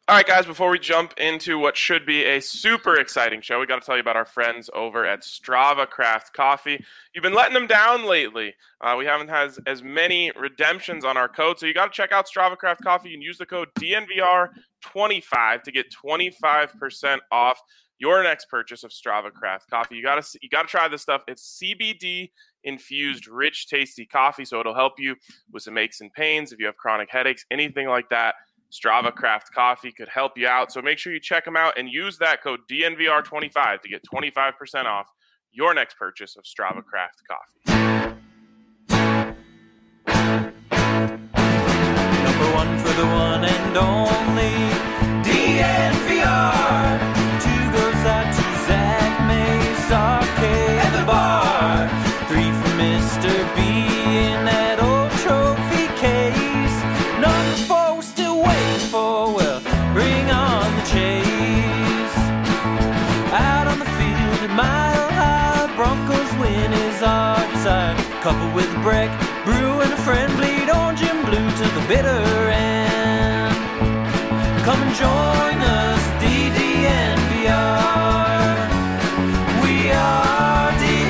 All right, guys, before we jump into what should be a super exciting show, we got to tell you about our friends over at Strava Craft Coffee. You've been letting them down lately. We haven't had as many redemptions on our code, so you got to check out Strava Craft Coffee. You can use the code DNVR25 to get 25% off your next purchase of Strava Craft Coffee. You got to try this stuff. It's CBD infused, rich, tasty coffee, so it'll help you with some aches and pains if you have chronic headaches, anything like that. Strava Craft Coffee could help you out. So make sure you check them out and use that code DNVR25 to get 25% off your next purchase of Strava Craft Coffee. Number one for the one and only DNVR. Two goes out to Zach Mace, Arcade, and the bar. Three for Mr. B in that old trophy case. Number four, we're still waiting for, well, bring on the chase. Out on the field at Mile High, Broncos win is our desire. Couple with a break, brew and a friend, bleed orange and blue to the bitter end. Come and join us, DDNVR. We are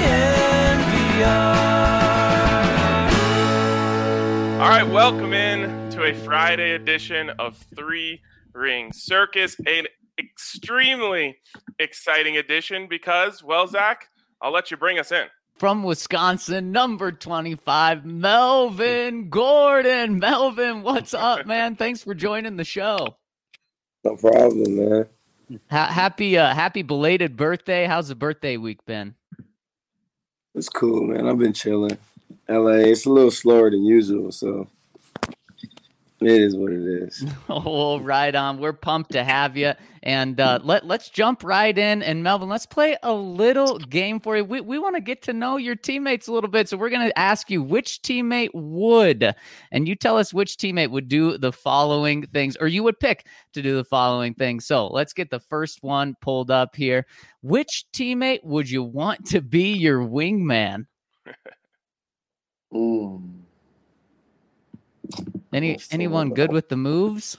DNVR. All right, welcome in to a Friday edition of Three Ring Circus, an extremely exciting edition because, well, Zach, I'll let you bring us in. From Wisconsin, number 25, Melvin Gordon. Melvin, what's up, man? Thanks for joining the show. No problem, man. Happy belated birthday. How's the birthday week been? It's cool, man. I've been chilling. LA, it's a little slower than usual, so it is what it is. Oh, right on. We're pumped to have you. And let's jump right in. And Melvin, let's play a little game for you. We want to get to know your teammates a little bit. So we're going to ask you which teammate would, and you tell us which teammate would do the following things, or you would pick to do the following things. So let's get the first one pulled up here. Which teammate would you want to be your wingman? Anyone good with the moves?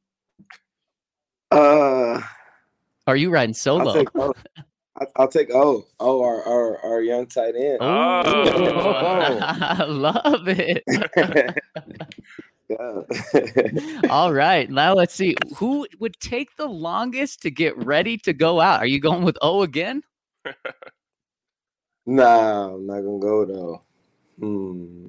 Are you riding solo? I'll take our young tight end. Oh, I love it. Yeah. All right, now let's see. Who would take the longest to get ready to go out? Are you going with O again? Nah, I'm not gonna go though. I'm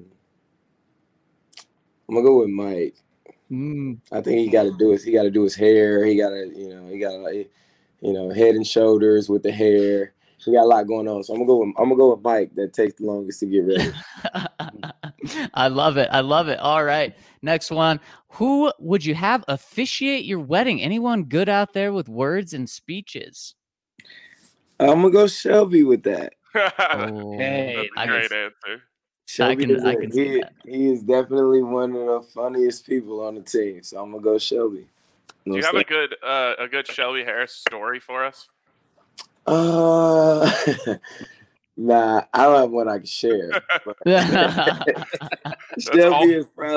gonna go with Mike. I think he got to do his hair. He got to, head and shoulders with the hair. He got a lot going on. So I'm gonna go with Mike. That takes the longest to get ready. I love it. All right, next one. Who would you have officiate your wedding? Anyone good out there with words and speeches? I'm gonna go Shelby with that. Oh, hey, that's a great answer. Shelby I can see that. He is definitely one of the funniest people on the team. So I'm gonna go Shelby. Do you have a good Shelby Harris story for us? Nah, I don't have one I can share. Shelby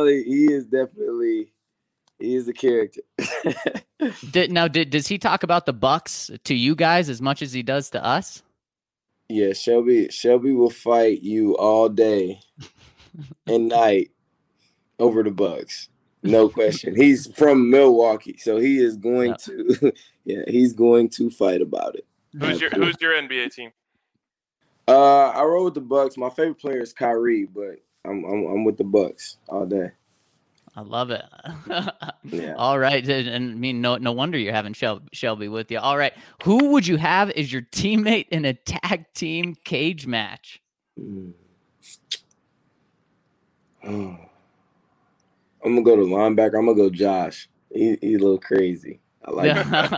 he is a character. Does he talk about the Bucks to you guys as much as he does to us? Yeah, Shelby will fight you all day and night over the Bucks. No question. He's from Milwaukee, so he is going to he's going to fight about it. Who's your NBA team? I roll with the Bucks. My favorite player is Kyrie, but I'm with the Bucks all day. I love it. Yeah. All right. And I mean, no wonder you're having Shelby with you. All right. Who would you have as your teammate in a tag team cage match? I'm going to go to linebacker. I'm going to go Josh. He's a little crazy. I like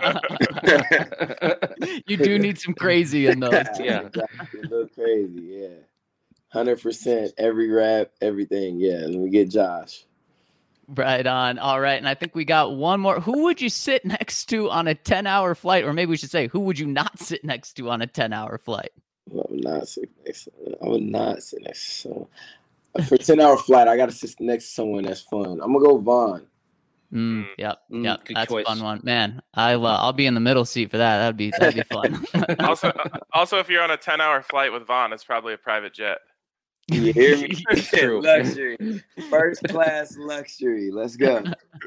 it. You do need some crazy in those. Yeah. A little crazy. Yeah. 100% every rep, everything. Yeah. Let me get Josh. Right on. All right. And I think we got one more. Who would you sit next to on a 10-hour flight? Or maybe we should say, who would you not sit next to on a 10-hour flight? I would not sit next to someone. For a 10-hour flight, I got to sit next to someone that's fun. I'm going to go Vaughn. Yep. Good That's choice. a fun one, man. I'll be in the middle seat for that. That'd be fun. Also, if you're on a 10-hour flight with Vaughn, it's probably a private jet. You hear me? True. Luxury, first class luxury. Let's go.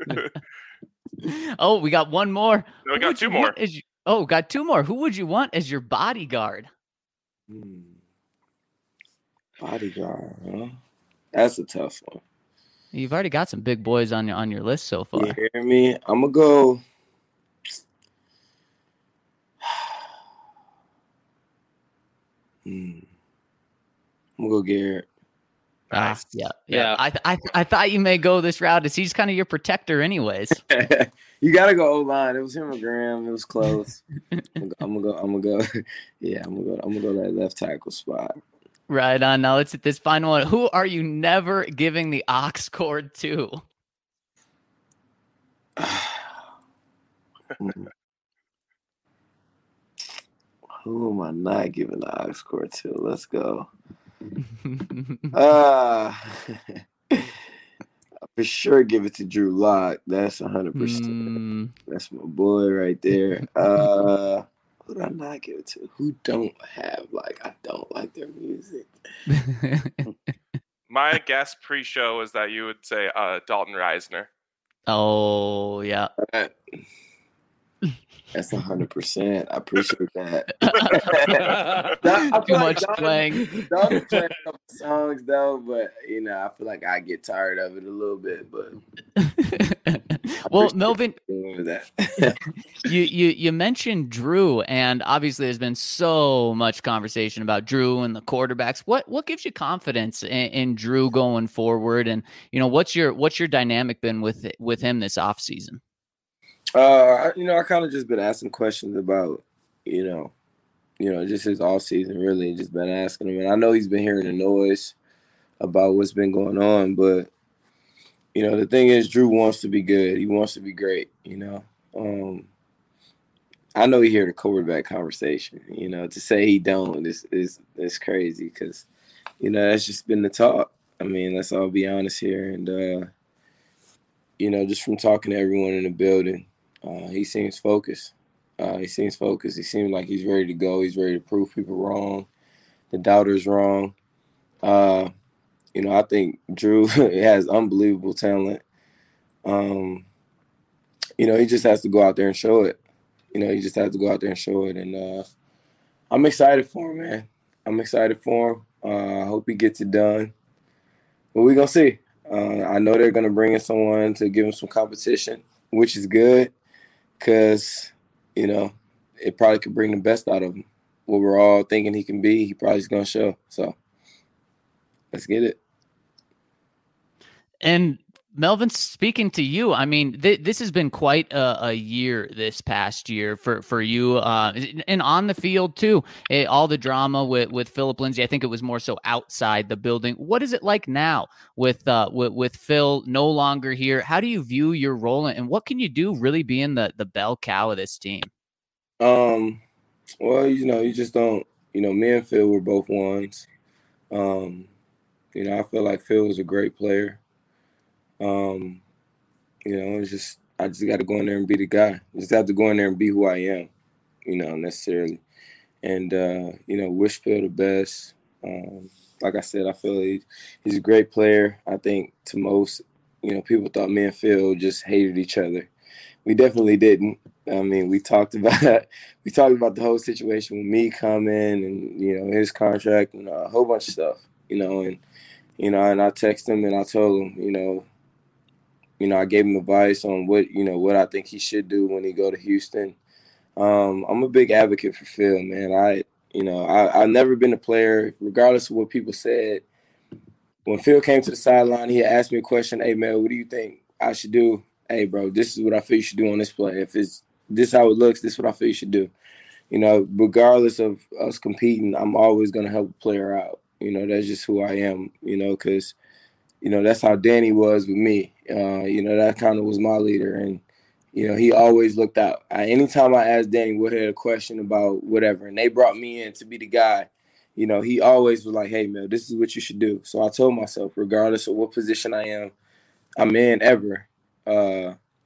Oh, we got one more. No, we got two more. Got two more. Who would you want as your bodyguard? Bodyguard, huh? That's a tough one. You've already got some big boys on your list so far. You hear me? I'm gonna go. I'm gonna go Garrett. Nice. Yeah. I thought you may go this route. As he's kind of your protector, anyways. You gotta go O-line. It was him or Graham. It was close. I'm gonna go. Yeah, I'm gonna go that left tackle spot. Right on. Now let's hit this final one. Who are you never giving the ox cord to? Who am I not giving the ox cord to? Let's go. For sure give it to Drew Lock. That's 100%. That's my boy right there. Who did I not give it to? Who don't have, I don't like their music. My guess pre-show is that you would say Dalton Reisner. Oh, yeah. That's 100%. I appreciate that. Too much playing. Dalton playing a couple songs though, but I feel like I get tired of it a little bit. But well, Melvin, that. you mentioned Drew, and obviously there's been so much conversation about Drew and the quarterbacks. What gives you confidence in Drew going forward? And what's your dynamic been with him this offseason? I kind of just been asking questions about, just his off season, really, just been asking him. And I know he's been hearing the noise about what's been going on, but, the thing is, Drew wants to be good. He wants to be great, I know he hear the quarterback conversation, to say he don't is crazy because, that's just been the talk. I mean, let's all be honest here. And, just from talking to everyone in the building, he seems focused. He seems like he's ready to go. He's ready to prove people wrong, the doubters wrong. I think Drew has unbelievable talent. He just has to go out there and show it. And I'm excited for him, man. I'm excited for him. I hope he gets it done. But we're going to see. I know they're going to bring in someone to give him some competition, which is good. Because, it probably could bring the best out of him. What we're all thinking he can be, he probably is going to show. So, let's get it. And, Melvin, speaking to you, I mean, this has been quite a year this past year for you, and on the field, too. All the drama with Phillip Lindsay, I think it was more so outside the building. What is it like now with Phil no longer here? How do you view your role, and what can you do really being the bell cow of this team? Well, you just don't, me and Phil were both ones. I feel like Phil was a great player. It's just I just got to go in there and be the guy. I just have to go in there and be who I am, necessarily. And wish Phil the best. Like I said, I feel he's a great player. I think to most, people thought me and Phil just hated each other. We definitely didn't. I mean, we talked about the whole situation with me coming and his contract and a whole bunch of stuff. And I texted him and I told him, I gave him advice on what I think he should do when he go to Houston. I'm a big advocate for Phil, man. I've never been a player, regardless of what people said. When Phil came to the sideline, he asked me a question, "Hey, man, what do you think I should do?" "Hey, bro, this is what I feel you should do on this play. If it's this how it looks, this is what I feel you should do." Regardless of us competing, I'm always going to help a player out. That's just who I am, because that's how Danny was with me. That kind of was my leader. And, he always looked out. Anytime I asked Danny what had a question about whatever, and they brought me in to be the guy, he always was like, "Hey, man, this is what you should do." So I told myself, regardless of what position I'm in ever,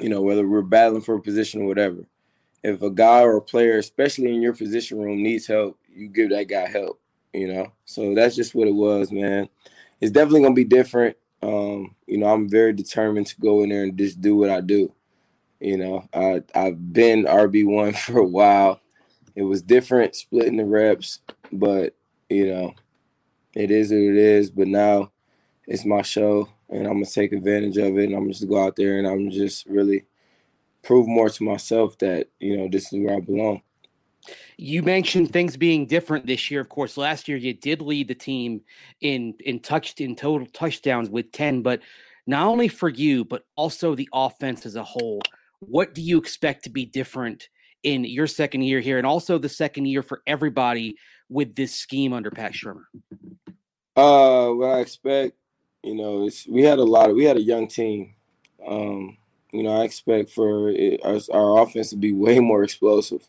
whether we're battling for a position or whatever. If a guy or a player, especially in your position room, needs help, you give that guy help, So that's just what it was, man. It's definitely going to be different. I'm very determined to go in there and just do what I do. I've been RB1 for a while. It was different splitting the reps, but, it is what it is. But now it's my show, and I'm going to take advantage of it, and I'm just go out there and I'm just really prove more to myself that, this is where I belong. You mentioned things being different this year. Of course, last year you did lead the team in total touchdowns with 10, but not only for you, but also the offense as a whole. What do you expect to be different in your second year here, and also the second year for everybody with this scheme under Pat Shurmur? What I expect, we had a young team. I expect for our offense to be way more explosive.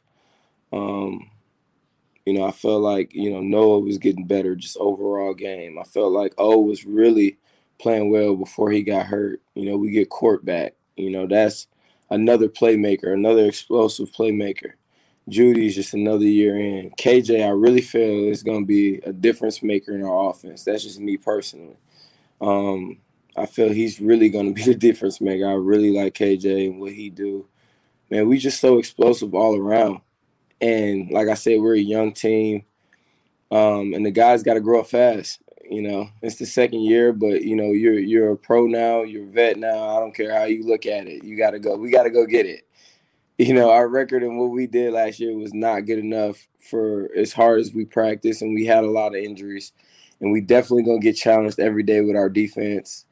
I felt like, Noah was getting better just overall game. I felt like O was really playing well before he got hurt. We get Court back. That's another playmaker, another explosive playmaker. Judy's just another year in. KJ, I really feel is going to be a difference maker in our offense. That's just me personally. I feel he's really going to be the difference maker. I really like KJ and what he do. Man, we just so explosive all around. And like I said, we're a young team, and the guys got to grow up fast. It's the second year, but you're a pro now, you're a vet now. I don't care how you look at it. You got to go. We got to go get it. Our record and what we did last year was not good enough for as hard as we practiced, and we had a lot of injuries. And we definitely gonna get challenged every day with our defense.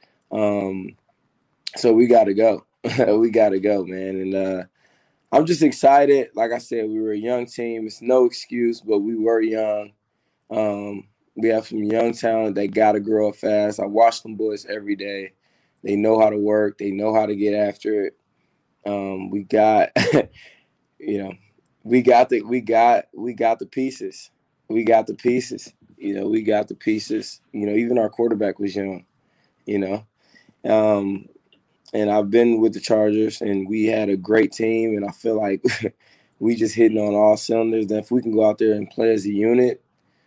So we got to go. We got to go, man. And I'm just excited. Like I said, we were a young team. It's no excuse, but we were young. We have some young talent that got to grow up fast. I watch them boys every day. They know how to work. They know how to get after it. We got, we got the pieces. We got the pieces. We got the pieces. Even our quarterback was young. And I've been with the Chargers, and we had a great team, and I feel like we just hitting on all cylinders. That if we can go out there and play as a unit,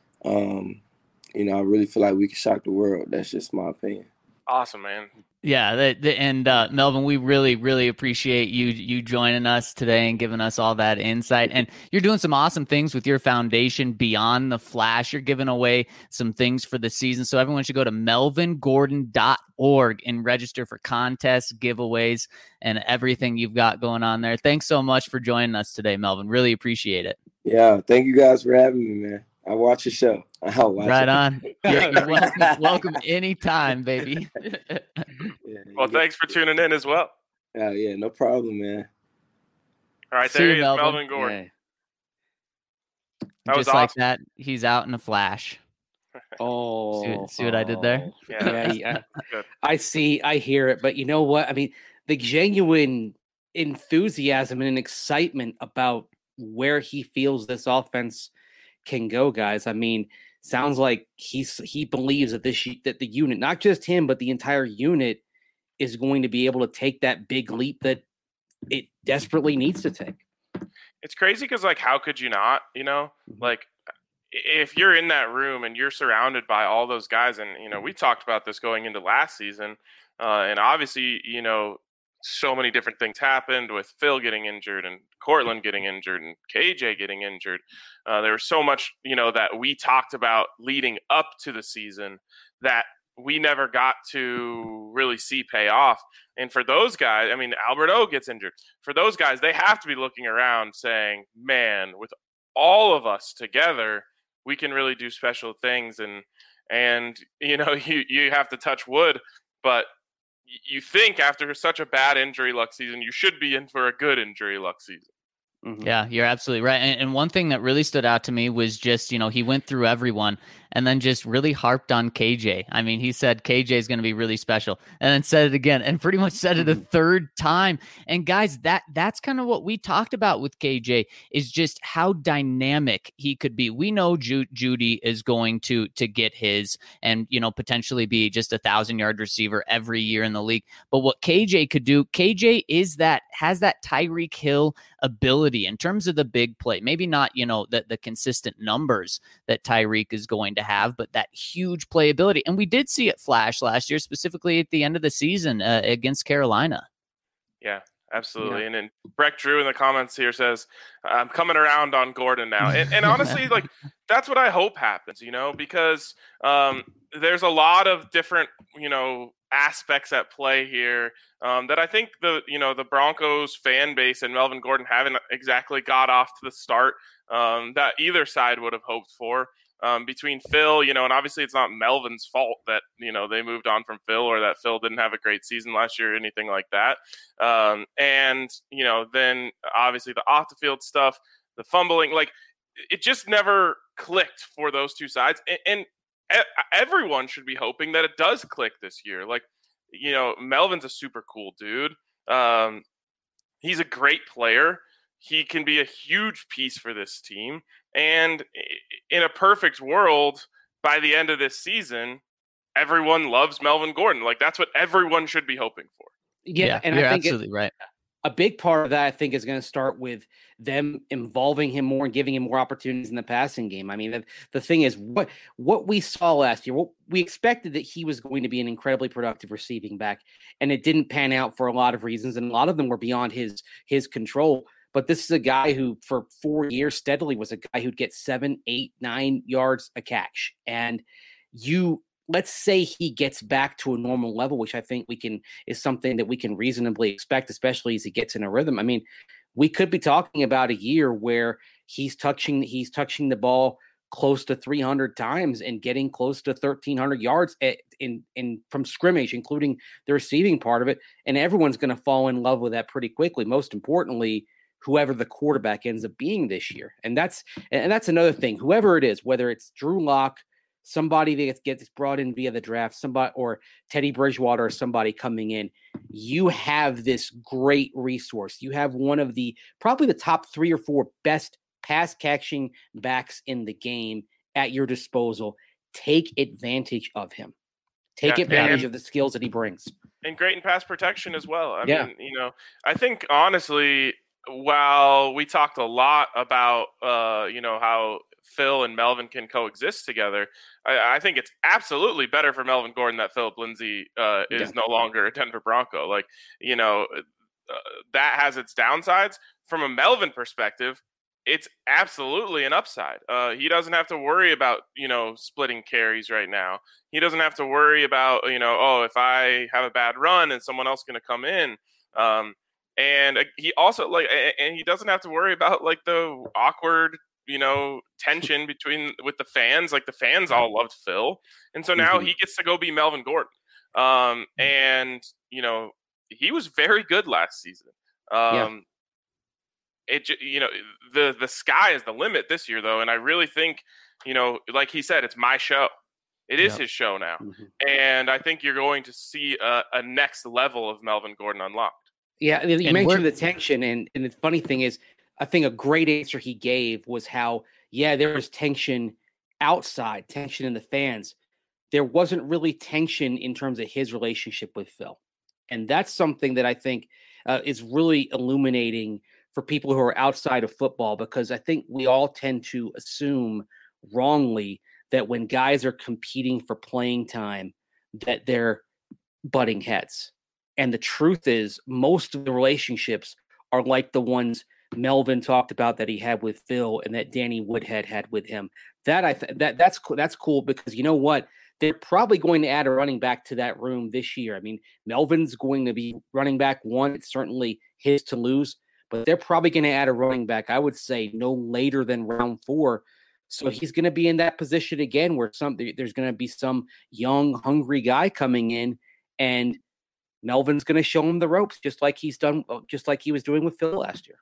I really feel like we can shock the world. That's just my opinion. Awesome, man. Yeah, and Melvin, we really, really appreciate you joining us today and giving us all that insight. And you're doing some awesome things with your foundation Beyond the Flash. You're giving away some things for the season. So everyone should go to melvingordon.org and register for contests, giveaways, and everything you've got going on there. Thanks so much for joining us today, Melvin. Really appreciate it. Yeah, thank you guys for having me, man. I watch your show. I'll watch right it. On. You're welcome anytime, baby. Well, thanks for tuning in as well. Yeah, no problem, man. All right, See there you, he is, Melvin. Melvin Gordon. Yeah. That was Just like awesome. that, he's out in a flash. Oh, See what I did there? Yeah. Good. I hear it, but you know what? I mean, the genuine enthusiasm and excitement about where he feels this offense can go, guys. I mean, sounds like he believes that that the unit, not just him, but the entire unit, is going to be able to take that big leap that it desperately needs to take. It's crazy because, how could you not? If you're in that room and you're surrounded by all those guys, and we talked about this going into last season, and obviously, so many different things happened with Phil getting injured and Cortland getting injured and KJ getting injured. There was so much, that we talked about leading up to the season that we never got to really see pay off. And for those guys, Albert O gets injured. For those guys, they have to be looking around saying, man, with all of us together, we can really do special things. And you have to touch wood, but you think after such a bad injury luck season, you should be in for a good injury luck season. Mm-hmm. Yeah, you're absolutely right. And one thing that really stood out to me was just, he went through everyone and then just really harped on KJ. I mean, he said KJ is going to be really special, and then said it again, and pretty much said it a third time. And guys, that's kind of what we talked about with KJ, is just how dynamic he could be. We know Jeudy is going to get his, and potentially be just 1,000-yard receiver every year in the league. But what KJ could do, KJ has that Tyreek Hill ability in terms of the big play. Maybe not, the consistent numbers that Tyreek is going to have, but that huge playability. And we did see it flash last year, specifically at the end of the season against Carolina. Yeah, absolutely. Yeah. And then Breck Drew in the comments here says, I'm coming around on Gordon now. And honestly, like, that's what I hope happens, because there's a lot of different, aspects at play here that I think the Broncos fan base and Melvin Gordon haven't exactly got off to the start that either side would have hoped for. Between Phil, and obviously it's not Melvin's fault that, they moved on from Phil, or that Phil didn't have a great season last year or anything like that. And then obviously the off the field stuff, the fumbling, like, it just never clicked for those two sides. And everyone should be hoping that it does click this year. Like, Melvin's a super cool dude. He's a great player. He can be a huge piece for this team. And in a perfect world, by the end of this season, everyone loves Melvin Gordon. Like, that's what everyone should be hoping for. Yeah, and you're I think absolutely right. A big part of that, I think, is going to start with them involving him more and giving him more opportunities in the passing game. I mean, the thing is, what we saw last year, we expected that he was going to be an incredibly productive receiving back, and it didn't pan out for a lot of reasons, and a lot of them were beyond his control. But this is a guy who, for 4 years steadily, was a guy who'd get 7, 8, 9 yards a catch. And let's say he gets back to a normal level, which I think is something that we can reasonably expect, especially as he gets in a rhythm. I mean, we could be talking about a year where he's touching the ball close to 300 times and getting close to 1,300 yards from scrimmage, including the receiving part of it. And everyone's going to fall in love with that pretty quickly. Most importantly, whoever the quarterback ends up being this year. And that's another thing. Whoever it is, whether it's Drew Lock, somebody that gets brought in via the draft, somebody, or Teddy Bridgewater, or somebody coming in, you have this great resource. You have one of probably the top 3 or 4 best pass catching backs in the game at your disposal. Take advantage of him. Take advantage of the skills that he brings. And great in pass protection as well. I mean, I think honestly, while we talked a lot about, how Phil and Melvin can coexist together, I think it's absolutely better for Melvin Gordon that Philip Lindsay is no longer a Denver Bronco. Like, that has its downsides. From a Melvin perspective, it's absolutely an upside. He doesn't have to worry about, splitting carries right now. He doesn't have to worry about, if I have a bad run and someone else going to come in. And he also and he doesn't have to worry about the awkward, tension with the fans. Like, the fans all loved Phil. And so now he gets to go be Melvin Gordon. And, he was very good last season. The sky is the limit this year, though. And I really think, like he said, it's my show. It is his show now. And I think you're going to see a next level of Melvin Gordon unlocked. Yeah, you mentioned the tension, and the funny thing is, I think a great answer he gave was how, there was tension outside, tension in the fans. There wasn't really tension in terms of his relationship with Phil. And that's something that I think is really illuminating for people who are outside of football, because I think we all tend to assume wrongly that when guys are competing for playing time, that they're butting heads. And the truth is, most of the relationships are like the ones Melvin talked about that he had with Phil and that Danny Woodhead had with him. That's cool, because you know what? They're probably going to add a running back to that room this year. I mean, Melvin's going to be running back 1. It's certainly his to lose, but they're probably going to add a running back, I would say, no later than round 4. So he's going to be in that position again where there's going to be some young, hungry guy coming in, and Melvin's going to show him the ropes, just like he was doing with Phil last year.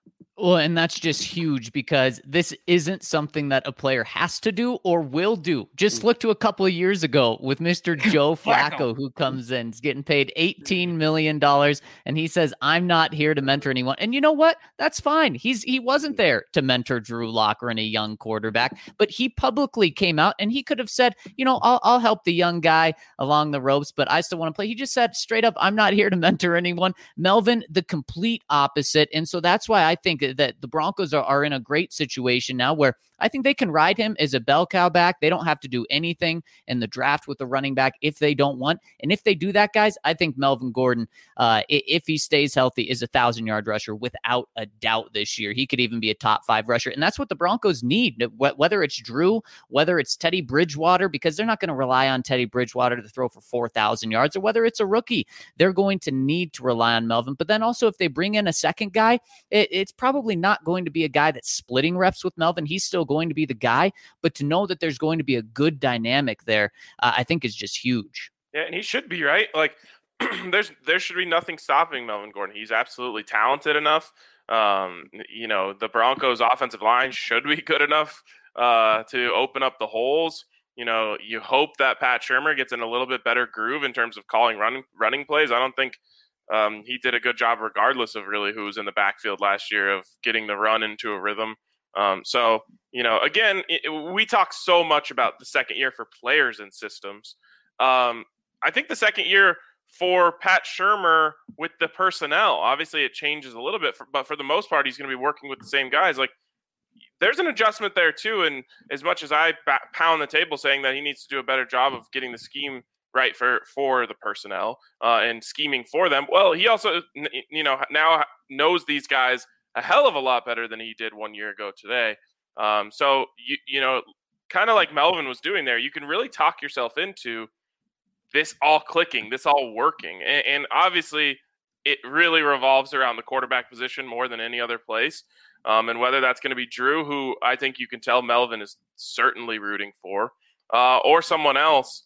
Well, and that's just huge because this isn't something that a player has to do or will do. Just look to a couple of years ago with Mr. Joe Flacco, who comes in, is getting paid $18 million, and he says, I'm not here to mentor anyone. And you know what? That's fine. He wasn't there to mentor Drew Lock or any young quarterback, but he publicly came out and he could have said, I'll help the young guy along the ropes, but I still want to play. He just said straight up, I'm not here to mentor anyone. Melvin, the complete opposite. And so that's why I think that the Broncos are in a great situation now where I think they can ride him as a bell cow back. They don't have to do anything in the draft with the running back if they don't want. And if they do that, guys, I think Melvin Gordon, if he stays healthy, is a 1,000-yard rusher without a doubt this year. He could even be a top 5 rusher. And that's what the Broncos need, whether it's Drew, whether it's Teddy Bridgewater, because they're not going to rely on Teddy Bridgewater to throw for 4,000 yards, or whether it's a rookie. They're going to need to rely on Melvin. But then also if they bring in a second guy, it's probably not going to be a guy that's splitting reps with Melvin. He's still going to be the guy, but to know that there's going to be a good dynamic there, I think is just huge. Yeah, and he should be, right? Like, there should be nothing stopping Melvin Gordon. He's absolutely talented enough. The Broncos' offensive line should be good enough to open up the holes. You hope that Pat Shurmur gets in a little bit better groove in terms of calling running plays. I don't think he did a good job regardless of really who was in the backfield last year of getting the run into a rhythm. Again, we talk so much about the second year for players and systems. I think the second year for Pat Shurmur with the personnel, obviously it changes a little bit, but for the most part, he's going to be working with the same guys. Like, there's an adjustment there too. And as much as I pound the table saying that he needs to do a better job of getting the scheme right for the personnel and scheming for them, well, he also, now knows these guys a hell of a lot better than he did 1 year ago today. So, kind of like Melvin was doing there, you can really talk yourself into this all clicking, this all working. And obviously it really revolves around the quarterback position more than any other place. And whether that's going to be Drew, who I think you can tell Melvin is certainly rooting for, or someone else,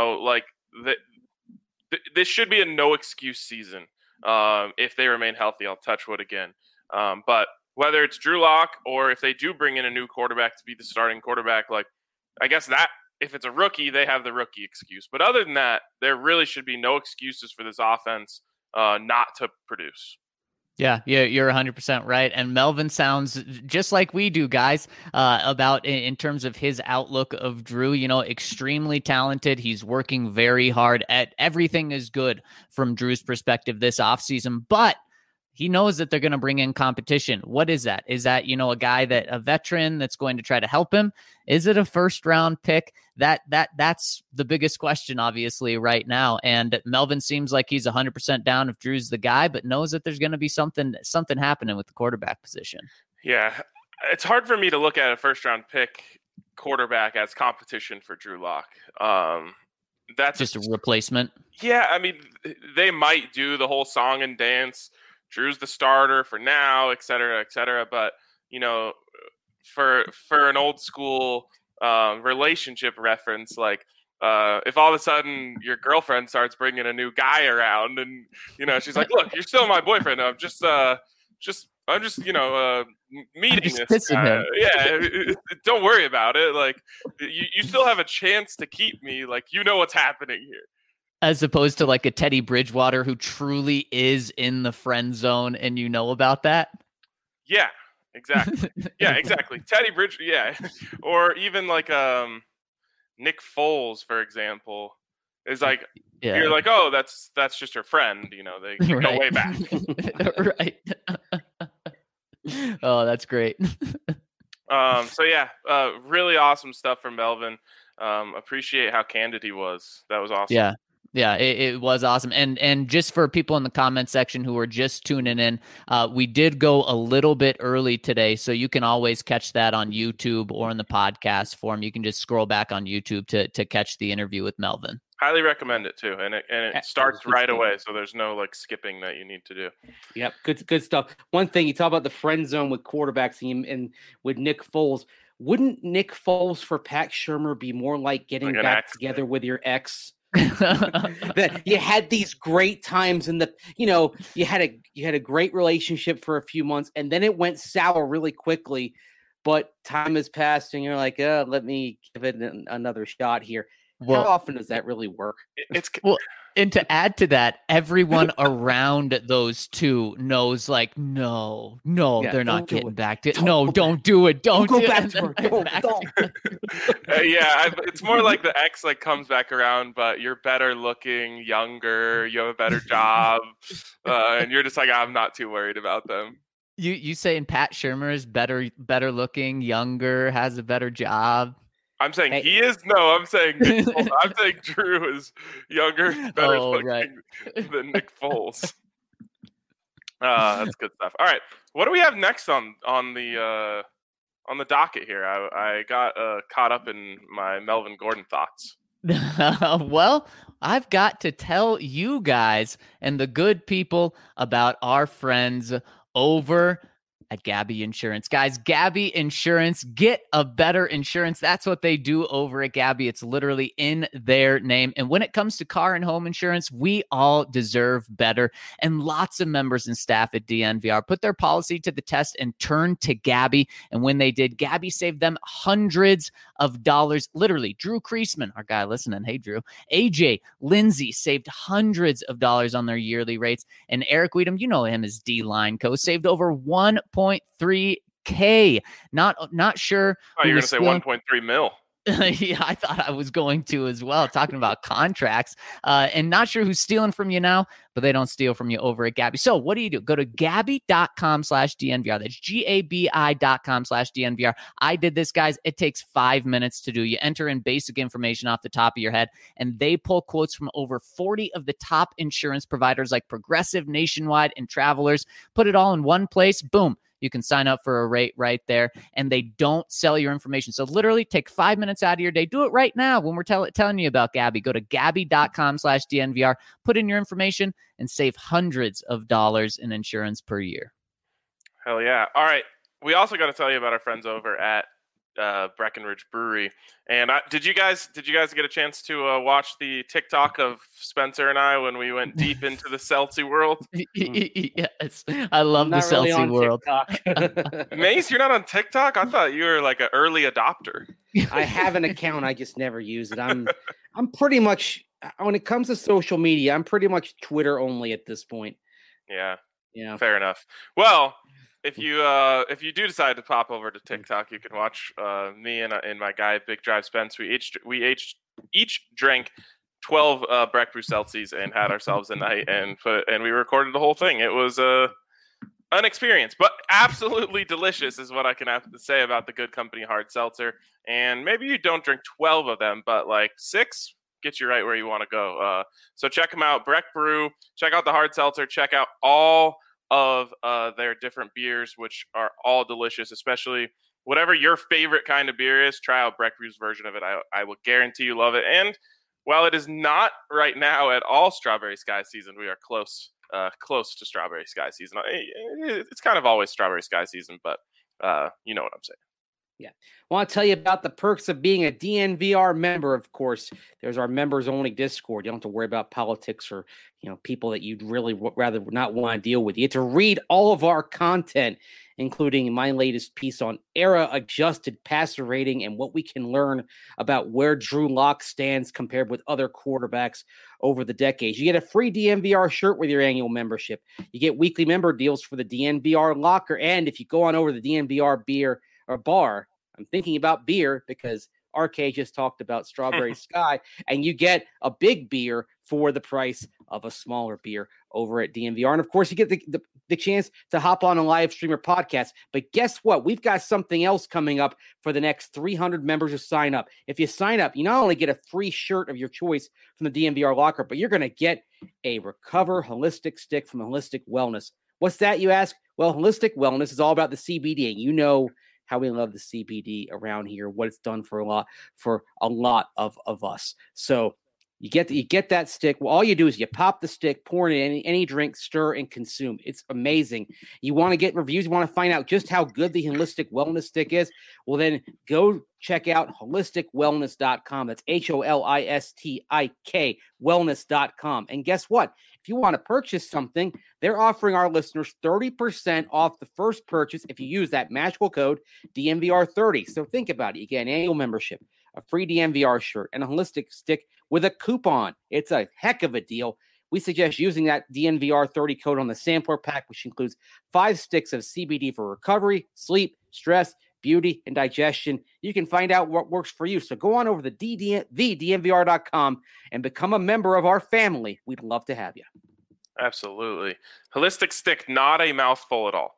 this should be a no excuse season. If they remain healthy, I'll touch wood again. But whether it's Drew Lock or if they do bring in a new quarterback to be the starting quarterback, like, I guess that if it's a rookie, they have the rookie excuse. But other than that, there really should be no excuses for this offense not to produce. Yeah, you're 100% right. And Melvin sounds just like we do, guys, about in terms of his outlook of Drew, extremely talented. He's working very hard at everything is good from Drew's perspective this offseason, but he knows that they're going to bring in competition. What is that? Is that, a veteran that's going to try to help him? Is it a first round pick? That's the biggest question, obviously, right now. And Melvin seems like he's 100% down if Drew's the guy, but knows that there's going to be something happening with the quarterback position. Yeah. It's hard for me to look at a first round pick quarterback as competition for Drew Lock. That's just a replacement. Yeah. I mean, they might do the whole song and dance. Drew's the starter for now, et cetera, et cetera. But, for an old school relationship reference, like if all of a sudden your girlfriend starts bringing a new guy around and, she's like, look, you're still my boyfriend. I'm just meeting this guy. Yeah. Don't worry about it. Like you still have a chance to keep me. Like, what's happening here. As opposed to like a Teddy Bridgewater who truly is in the friend zone and about that? Yeah, exactly. Yeah, exactly. Teddy Bridge, yeah. Or even like Nick Foles, for example, is like, you're like, oh, that's just her friend. They go way back. Right. Oh, that's great. Really awesome stuff from Melvin. Appreciate how candid he was. That was awesome. Yeah, it was awesome. And just for people in the comment section who are just tuning in, we did go a little bit early today, so you can always catch that on YouTube or in the podcast form. You can just scroll back on YouTube to catch the interview with Melvin. Highly recommend it too. And it starts right away, so there's no like skipping that you need to do. Yep, good stuff. One thing, you talk about the friend zone with quarterbacks and with Nick Foles. Wouldn't Nick Foles for Pat Shurmur be more like getting back together with your ex That you had these great times in the, you had a great relationship for a few months, and then it went sour really quickly. But time has passed, and you're like, let me give it another shot here. How often does that really work? Well, and to add to that, everyone around those two knows, like, no, they're not getting back to it. No, don't do it. Don't go back to her. Don't. It's more like the ex like comes back around, but you're better looking, younger, you have a better job, and you're just like, I'm not too worried about them. You saying Pat Shurmur is better looking, younger, has a better job? I'm saying he is. No, I'm saying Nick Foles. I'm saying Drew is younger, better looking than Nick Foles. That's good stuff. All right, what do we have next on the docket here? I got caught up in my Melvin Gordon thoughts. Well, I've got to tell you guys and the good people about our friends over at Gabi Insurance. Guys, Gabi Insurance, get a better insurance. That's what they do over at Gabi. It's literally in their name. And when it comes to car and home insurance, we all deserve better. And lots of members and staff at DNVR put their policy to the test and turned to Gabi. And when they did, Gabi saved them hundreds of dollars. Literally, Drew Kreisman, our guy listening, hey Drew, AJ, Lindsay saved hundreds of dollars on their yearly rates. And Eric Weedham, you know him as D-Line Co, saved over $1.3K. Not sure. Oh, you're going to say 1.3 mil. Yeah, I thought I was going to as well, talking about contracts. And not sure who's stealing from you now, but they don't steal from you over at Gabi. So what do? Go to Gabi.com/DNVR. That's GABI.com/DNVR. I did this, guys. It takes 5 minutes to do. You enter in basic information off the top of your head, and they pull quotes from over 40 of the top insurance providers like Progressive, Nationwide, and Travelers. Put it all in one place. Boom. You can sign up for a rate right there, and they don't sell your information. So literally take 5 minutes out of your day. Do it right now when we're telling you about Gabi. Go to Gabi.com/DNVR, put in your information, and save hundreds of dollars in insurance per year. Hell yeah. All right. We also got to tell you about our friends over at Breckenridge Brewery. And did you guys get a chance to watch the TikTok of Spencer and I when we went deep into the Celtics world? Yes, I love the Celtics world. Mace, you're not on TikTok? I thought you were like an early adopter. I have an account, I just never use it. I'm pretty much, when it comes to social media, I'm pretty much Twitter only at this point. Yeah. Fair enough. Well, if you do decide to pop over to TikTok, you can watch me and my guy Big Drive Spence. We each drank 12 Breck Brew Celsius and had ourselves a night and we recorded the whole thing. It was an experience, but absolutely delicious is what I can have to say about the Good Company hard seltzer. And maybe you don't drink 12 of them, but like 6 gets you right where you want to go. So check them out, Breck Brew. Check out the hard seltzer. Check out all of their different beers, which are all delicious, especially whatever your favorite kind of beer is. Try out Breck Brew's version of it. I will guarantee you love it. And while it is not right now at all Strawberry Sky season, we are close to Strawberry Sky season. It's kind of always Strawberry Sky season, but you know what I'm saying. Yeah. I want to tell you about the perks of being a DNVR member. Of course, there's our members only Discord. You don't have to worry about politics or, people that you'd really rather not want to deal with. You get to read all of our content, including my latest piece on era adjusted passer rating and what we can learn about where Drew Lock stands compared with other quarterbacks over the decades. You get a free DNVR shirt with your annual membership. You get weekly member deals for the DNVR locker. And if you go on over to the DNVR beer or bar, I'm thinking about beer because RK just talked about Strawberry Sky, and you get a big beer for the price of a smaller beer over at DNVR. And of course, you get the chance to hop on a live stream or podcast. But guess what? We've got something else coming up for the next 300 members who sign up. If you sign up, you not only get a free shirt of your choice from the DNVR locker, but you're going to get a Recover Holistic Stick from Holistic Wellness. What's that, you ask? Well, Holistic Wellness is all about the CBD, and you know how we love the CBD around here, what it's done for a lot of us. So You get that stick. Well, all you do is you pop the stick, pour it in any drink, stir, and consume. It's amazing. You want to get reviews, you want to find out just how good the Holistic Wellness Stick is? Well, then go check out holisticwellness.com. That's HOLISTIK wellness.com. And guess what? If you want to purchase something, they're offering our listeners 30% off the first purchase if you use that magical code DNVR30. So think about it. You get an annual membership, a free DNVR shirt, and a holistic stick with a coupon. It's a heck of a deal. We suggest using that DNVR30 code on the sampler pack, which includes 5 sticks of CBD for recovery, sleep, stress, beauty, and digestion. You can find out what works for you. So go on over to DNVR.com and become a member of our family. We'd love to have you. Absolutely. Holistic stick, not a mouthful at all.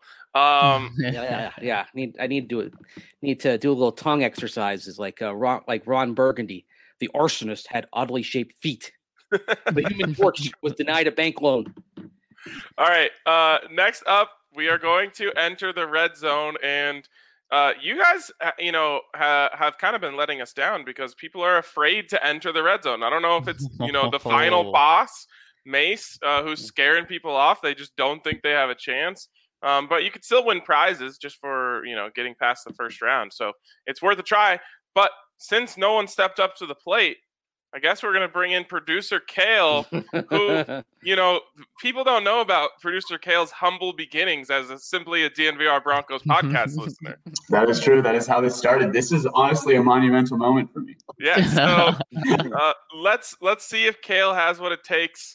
Yeah. I need to do a little tongue exercises like Ron Burgundy. The arsonist had oddly shaped feet. The Human Torch was denied a bank loan. All right. Next up, we are going to enter the red zone, and you guys, have kind of been letting us down because people are afraid to enter the red zone. I don't know if it's the final boss, Mace, who's scaring people off. They just don't think they have a chance. But you could still win prizes just for getting past the first round. So it's worth a try. But since no one stepped up to the plate, I guess we're going to bring in producer Kale, who, people don't know about producer Kale's humble beginnings as simply a DNVR Broncos podcast listener. That is true. That is how this started. This is honestly a monumental moment for me. Yeah. So let's see if Kale has what it takes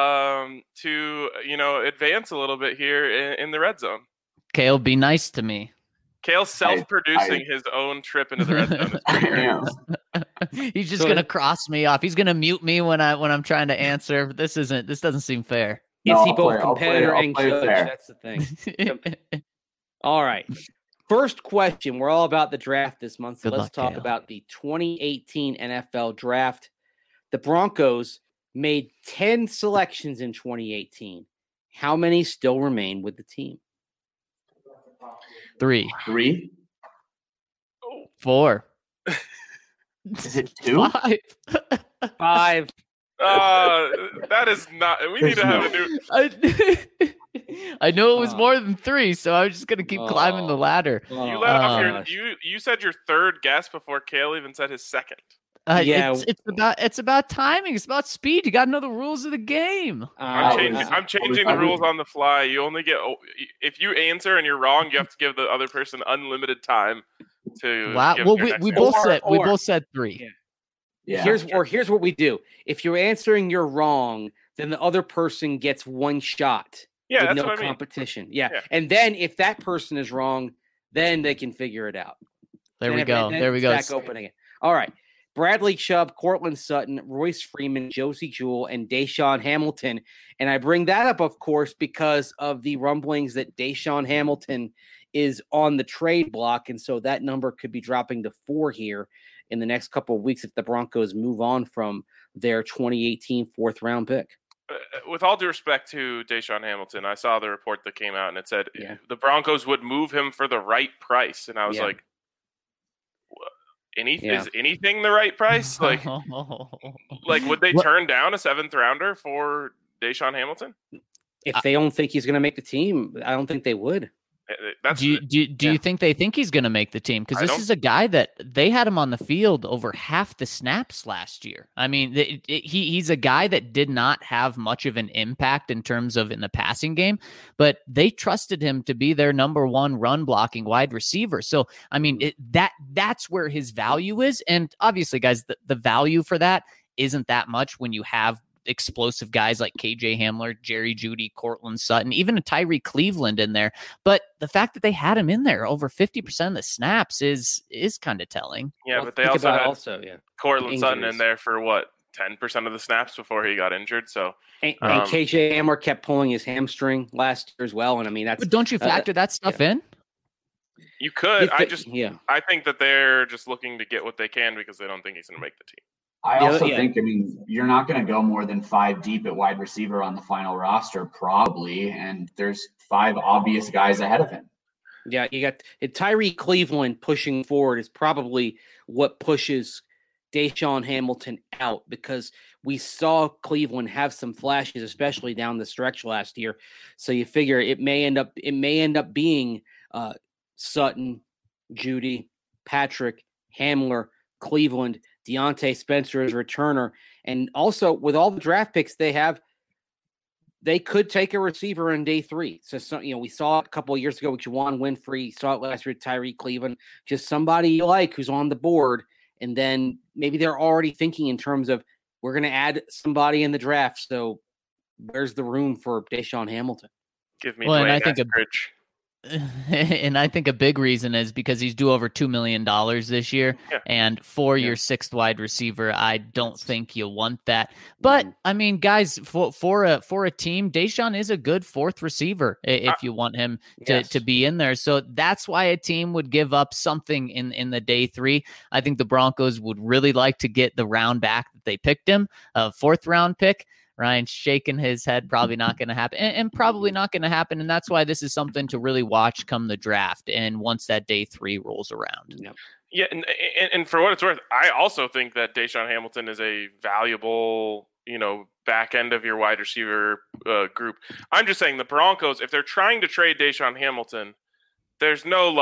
to, advance a little bit here in the red zone. Kale, be nice to me. Kale's self-producing his own trip into the red zone. I am. He's just gonna cross me off. He's gonna mute me when I'm trying to answer. This doesn't seem fair. Is he both competitor and judge? That's the thing. All right. First question. We're all about the draft this month. So let's talk about the 2018 NFL draft. The Broncos made 10 selections in 2018. How many still remain with the team? 3. 4. Is it 2? 5. That is not. We need to have a new. I know it was more than 3, so I was just gonna keep climbing the ladder. You let off you said your third guess before Kale even said his second. It's about timing. It's about speed. You got to know the rules of the game. I'm changing the rules on the fly. You only get if you answer and you're wrong, you have to give the other person unlimited time to. Wow. Well, we both said 3. Yeah. Here's what we do. If you're answering you're wrong, then the other person gets one shot. Yeah, with that's no what competition. Yeah, and then if that person is wrong, then they can figure it out. There we go. Back open again. All right. Bradley Chubb, Cortland Sutton, Royce Freeman, Josie Jewell, and Deshaun Hamilton. And I bring that up, of course, because of the rumblings that Deshaun Hamilton is on the trade block. And so that number could be dropping to 4 here in the next couple of weeks if the Broncos move on from their 2018 4th-round pick. With all due respect to Deshaun Hamilton, I saw the report that came out and it said the Broncos would move him for the right price. And I was like, is anything the right price? Like would they turn down a 7th rounder for Deshaun Hamilton? If they don't think he's going to make the team, I don't think they would. Do you think they think he's going to make the team? Because this is a guy that they had him on the field over half the snaps last year. I mean, he's a guy that did not have much of an impact in terms of in the passing game, but they trusted him to be their number 1 run blocking wide receiver. So, I mean, that's where his value is. And obviously, guys, the value for that isn't that much when you have explosive guys like KJ Hamler, Jerry Jeudy, Cortland Sutton, even a Tyree Cleveland in there. But the fact that they had him in there over 50% of the snaps is kind of telling. Yeah, but they also had Cortland Sutton in there for 10% of the snaps before he got injured. So and KJ Hamler kept pulling his hamstring last year as well. And I mean, but don't you factor that stuff in? You could. I think that they're just looking to get what they can because they don't think he's going to make the team. I also think, you're not going to go more than 5 deep at wide receiver on the final roster, probably. And there's 5 obvious guys ahead of him. Yeah, you got Tyree Cleveland pushing forward is probably what pushes Deshaun Hamilton out, because we saw Cleveland have some flashes, especially down the stretch last year. So you figure it may end up being Sutton, Judy, Patrick, Hamler, Cleveland, Deontay Spencer as returner. And also with all the draft picks they have, they could take a receiver in day 3. So we saw it a couple of years ago with Juwan Winfrey, saw it last year with Tyreek Cleveland, just somebody you like who's on the board. And then maybe they're already thinking in terms of, we're going to add somebody in the draft. So where's the room for Deshaun Hamilton? Give me Well, Dwayne and I think Eskridge. And I think a big reason is because he's due over $2 million this year. Yeah. And for your 6th wide receiver, I don't think you want that. But I mean, guys, for a team, Deshaun is a good 4th receiver if you want him to be in there. So that's why a team would give up something in the day 3. I think the Broncos would really like to get the round back that they picked him, a 4th round pick. Ryan's shaking his head. Probably not going to happen, and probably not going to happen. And that's why this is something to really watch come the draft. And once that day 3 rolls around. Yep. Yeah, and for what it's worth, I also think that Deshaun Hamilton is a valuable, back end of your wide receiver group. I'm just saying the Broncos, if they're trying to trade Deshaun Hamilton, there's no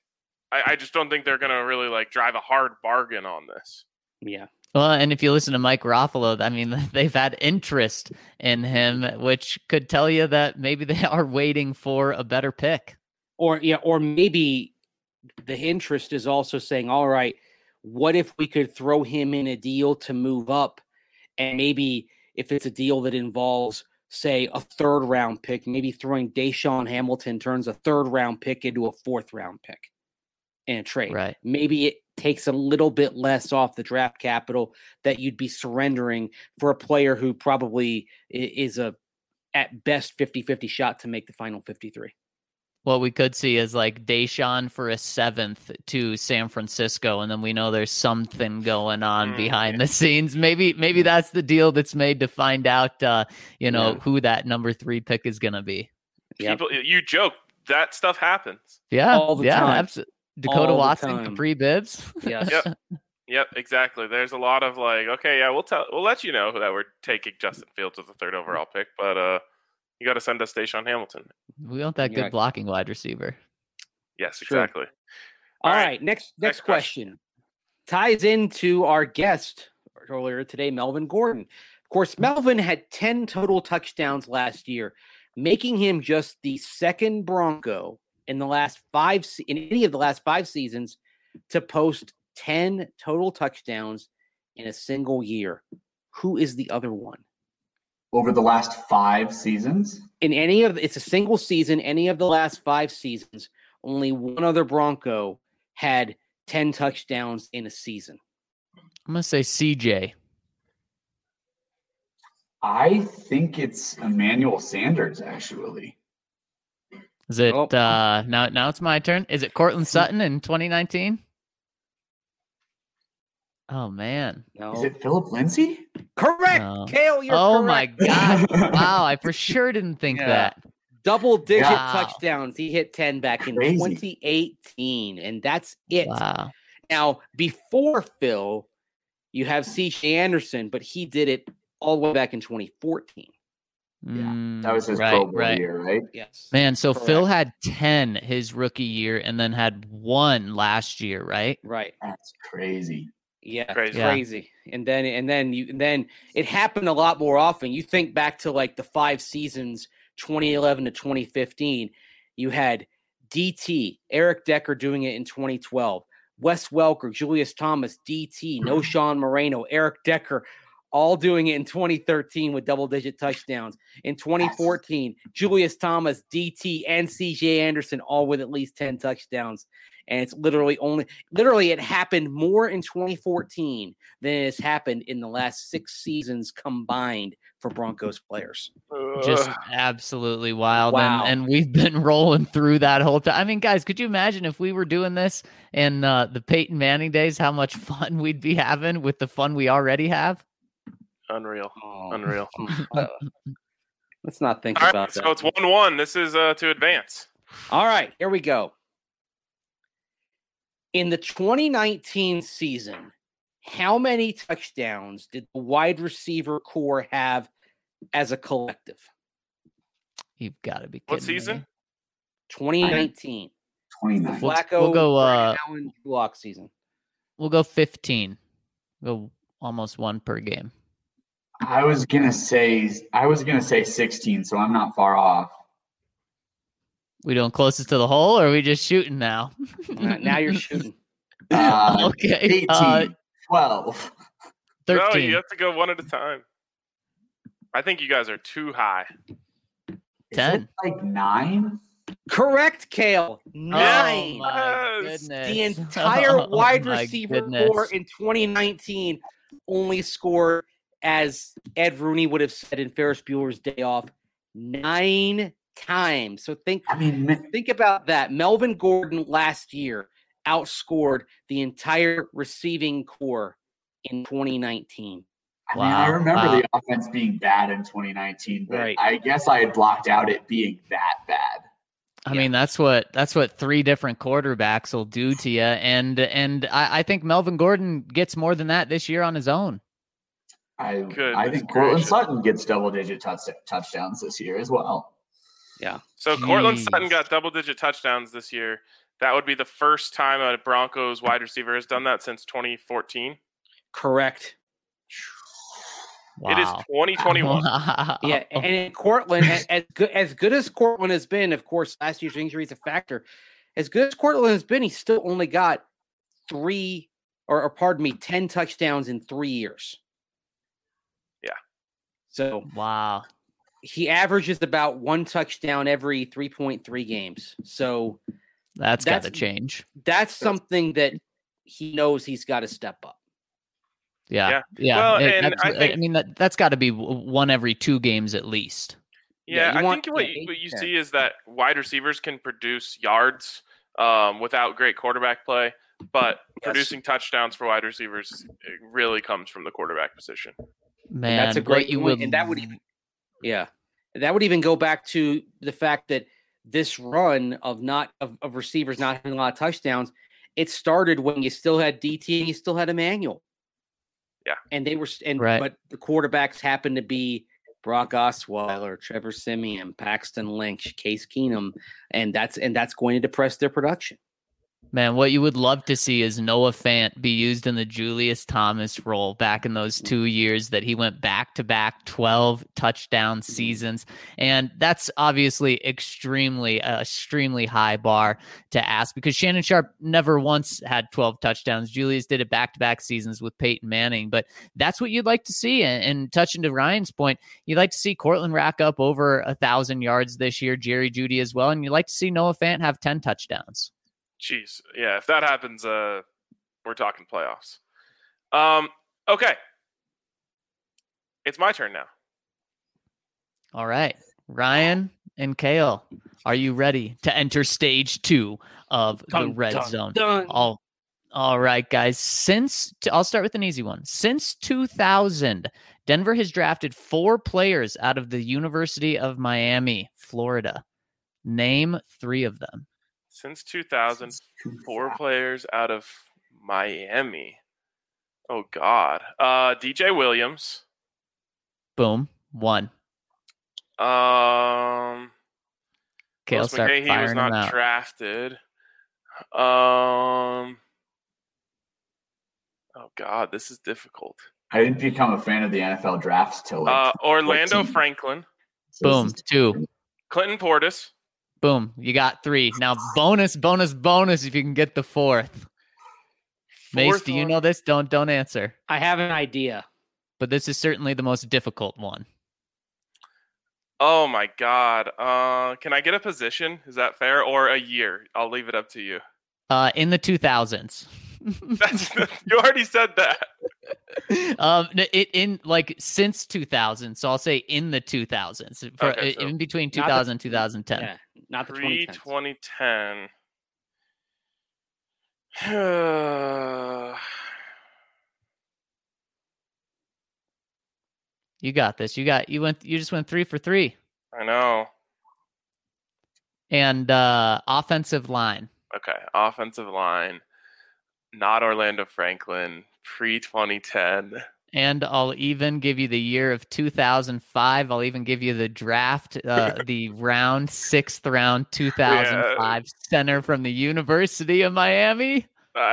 I just don't think they're going to really drive a hard bargain on this. Yeah. Well, and if you listen to Mike Garofalo, I mean, they've had interest in him, which could tell you that maybe they are waiting for a better pick. Or maybe the interest is also saying, all right, what if we could throw him in a deal to move up? And maybe if it's a deal that involves, say, a 3rd round pick, maybe throwing Deshaun Hamilton turns a 3rd round pick into a 4th round pick in a trade. Right. Maybe it takes a little bit less off the draft capital that you'd be surrendering for a player who probably is at best 50-50 shot to make the final 53. What we could see is Deshaun for a 7th to San Francisco, and then we know there's something going on behind the scenes. Maybe that's the deal that's made to find out, who that number 3 pick is going to be. People, you joke, that stuff happens. Yeah, all the time. Absolutely. Dakota Watson, Capri Bibbs. Yes. Yep, exactly. There's a lot of we'll let you know that we're taking Justin Fields with the 3rd overall pick, but you got to send us Deshaun Hamilton. We want that good blocking wide receiver. Yes, exactly. All right. Next question ties into our guest earlier today, Melvin Gordon. Of course, Melvin had 10 total touchdowns last year, making him just the 2nd Bronco in any of the last 5 seasons to post 10 total touchdowns in a single year. Who is the other one? Over the last 5 seasons? It's a single season, any of the last 5 seasons, only one other Bronco had 10 touchdowns in a season. I'm going to say CJ. I think it's Emmanuel Sanders, actually. Is it now it's my turn? Is it Cortland Sutton in 2019? Oh man. No. Is it Philip Lindsay? Correct. No. Kale, you're correct. my God. Wow, I for sure didn't think that. Double-digit Wow. touchdowns. He hit 10 back in Crazy. 2018, and that's it. Wow. Now, before Phil, you have C.J. Anderson, but he did it all the way back in 2014. That was his Pro Bowl year, right? Yes. Man, so Correct. Phil had 10 his rookie year and then had 1 last year, right? Right. That's crazy. Yeah, Crazy. And then it happened a lot more often. You think back to the 5 seasons, 2011 to 2015. You had DT, Eric Decker doing it in 2012. Wes Welker, Julius Thomas, DT, Noshawn Moreno, Eric Decker, all doing it in 2013 with double-digit touchdowns. In 2014, Julius Thomas, DT, and C.J. Anderson all with at least 10 touchdowns. And it's literally it happened more in 2014 than it has happened in the last 6 seasons combined for Broncos players. Just absolutely wild. Wow. And we've been rolling through that whole time. I mean, guys, could you imagine if we were doing this in the Peyton Manning days, how much fun we'd be having with the fun we already have? Unreal. Let's not think All about right, that. so it's 1-1. This is to advance. All right, here we go. In the 2019 season, How many touchdowns did the wide receiver core have as a collective? You've got to be kidding What season? me. 2019. 29. Flacco, We'll go, Brandon Allen, Lock season. We'll go 15. Go almost one per game. I was gonna say 16, so I'm not far off. We doing closest to the hole, or are we just shooting now? Now you're shooting. Okay. 18, 12. 13. No, you have to go one at a time. I think you guys are too high. Is 10. it like 9? Correct, Kale. 9. Oh my Yes. goodness. The entire Oh wide my receiver goodness. core in 2019 only scored, as Ed Rooney would have said in Ferris Bueller's Day Off, 9 times. So think about that. Melvin Gordon last year outscored the entire receiving core in 2019. I mean, I Wow. remember Wow. the offense being bad in 2019, but Right. I guess I had blocked out it being that bad. I mean, that's what 3 different quarterbacks will do to you, and I think Melvin Gordon gets more than that this year on his own. I Goodness think Cortland gracious. Sutton gets double-digit touchdowns this year as well. Yeah. So Cortland Jeez. Sutton got double-digit touchdowns this year. That would be the first time a Broncos wide receiver has done that since 2014. Correct. It is 2021. Wow. Yeah, and in Cortland, as good as Cortland has been, of course, last year's injury is a factor. As good as Cortland has been, he still only got 10 touchdowns in 3 years. Yeah. So Wow. he averages about 1 touchdown every 3.3 games. So That's got to That's- change. that's something that he knows he's got to step up. Yeah. Well, and that's- I think- I mean, that's got to be one every 2 games at least. Yeah, you I want- think what yeah, you, what you 8-10. see is that wide receivers can produce yards without great quarterback play, but producing touchdowns for wide receivers it really comes from the quarterback position. Man, That's a what great you point, would and that would even that would even go back to the fact that this run of receivers not having a lot of touchdowns, it started when you still had DT and you still had Emmanuel. Yeah. And they were Right. but the quarterbacks happened to be Brock Osweiler, Trevor Siemian, Paxton Lynch, Case Keenum, and that's going to depress their production. Man, what you would love to see is Noah Fant be used in the Julius Thomas role back in those 2 years that he went back-to-back 12 touchdown seasons. And that's obviously extremely high bar to ask because Shannon Sharp never once had 12 touchdowns. Julius did it back-to-back seasons with Peyton Manning, but that's what you'd like to see. And touching to Ryan's point, you'd like to see Cortland rack up over 1,000 yards this year, Jerry Jeudy as well, and you'd like to see Noah Fant have 10 touchdowns. Jeez, yeah, if that happens, we're talking playoffs. Okay, it's my turn now. All right. Ryan and Kale, are you ready to enter stage 2 of the Dun, red dun, zone? dun. All right, guys. I'll start with an easy one. Since 2000, Denver has drafted 4 players out of the University of Miami, Florida. Name 3 of them. Since 2000, 4 players out of Miami. Oh, God. DJ Williams. Boom. 1. Kale, Willis start McGahee was firing them not out. drafted. Oh, God, this is difficult. I didn't become a fan of the NFL drafts till like Orlando 14. Franklin. So this Boom. is- 2. Clinton Portis. Boom. You got 3. Now, bonus if you can get the 4th. Mace, Fourth do you one. know this? Don't answer. I have an idea. But this is certainly the most difficult one. Oh, my God. Can I get a position? Is that fair? Or a year? I'll leave it up to you. In the 2000s. You already said that. Since 2000. So I'll say in the 2000s. Okay, so in between not the- 2000 and 2010. Yeah, not the Pre 2010s. 2010. You got this. You just went 3 for 3. I know. And offensive line. Okay. Offensive line. Not Orlando Franklin. pre-2010. And I'll even give you the year of 2005. I'll even give you the draft, the round, 6th round, 2005 center from the University of Miami.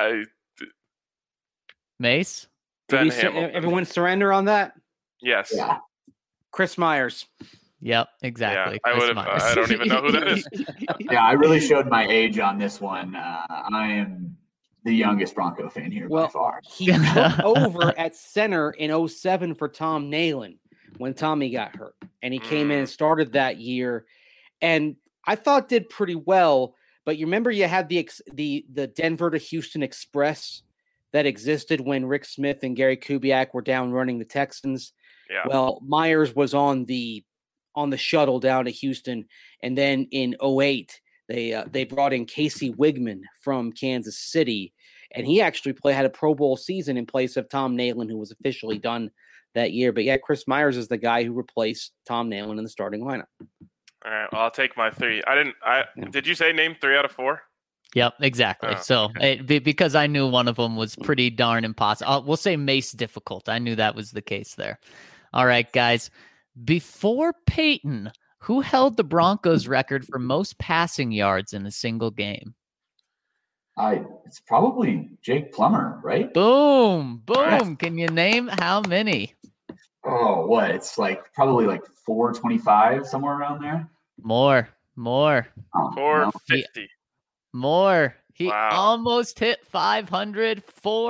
Mace? Ben Hamilton. Everyone surrender on that? Yes. Yeah. Chris Myers. Yep, exactly. Yeah, Chris Myers. I don't even know who that is. Yeah, I really showed my age on this one. I am the youngest Bronco fan here by far. He took over at center in 2007 for Tom Nalen when Tommy got hurt. And he came in and started that year. And I thought did pretty well. But you remember you had the Denver to Houston Express that existed when Rick Smith and Gary Kubiak were down running the Texans. Yeah. Well, Myers was on the shuttle down to Houston. And then in 2008, they brought in Casey Wigman from Kansas City, and he actually had a Pro Bowl season in place of Tom Nalen, who was officially done that year. But yeah, Chris Myers is the guy who replaced Tom Nalen in the starting lineup. All right, well, I'll take my 3. Did you say name 3 out of 4? Yep, exactly. Oh, so because I knew one of them was pretty darn impossible. We'll say Mace difficult. I knew that was the case there. All right, guys. Before Peyton, who held the Broncos record for most passing yards in a single game? It's probably Jake Plummer, right? Boom. Can you name how many? Oh, what? It's probably 425, somewhere around there. More. Oh, 450. More. He Wow. almost hit 500,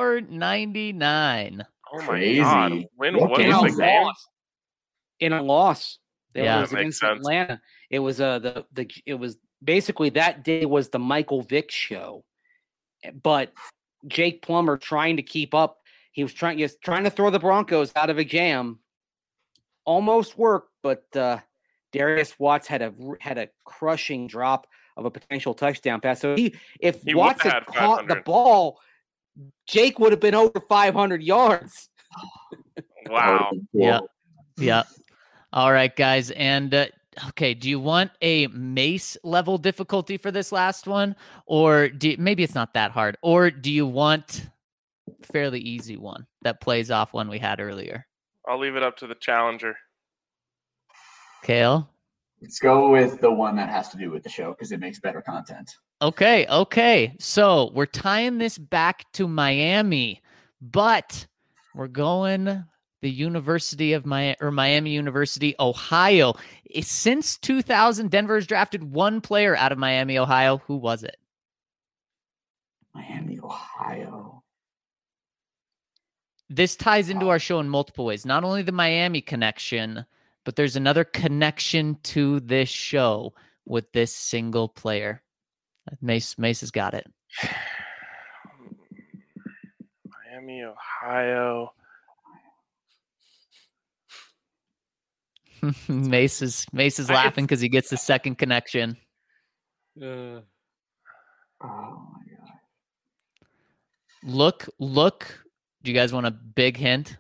499. Oh my Crazy. God! What was the game? In a loss. Yeah. It was That makes against sense. Atlanta. It was it was basically that day was the Michael Vick show. But Jake Plummer trying to keep up. He was trying to throw the Broncos out of a jam. Almost worked, but Darius Watts had a crushing drop of a potential touchdown pass. So if He Watts would've had had caught the 500. ball, Jake would have been over 500 yards. Wow. Yeah. All right, guys. And okay, do you want a Mace level difficulty for this last one? Or maybe it's not that hard. Or do you want fairly easy one that plays off one we had earlier? I'll leave it up to the challenger. Kale? Let's go with the one that has to do with the show because it makes better content. Okay. So we're tying this back to Miami, but we're going the University of Miami University, Ohio. Since 2000, Denver has drafted one player out of Miami, Ohio. Who was it? Miami, Ohio. This ties into our show in multiple ways. Not only the Miami connection, but there's another connection to this show with this single player. Mace has got it. Miami, Ohio. Mace is laughing because he gets the second connection. Oh my God. Look. Do you guys want a big hint?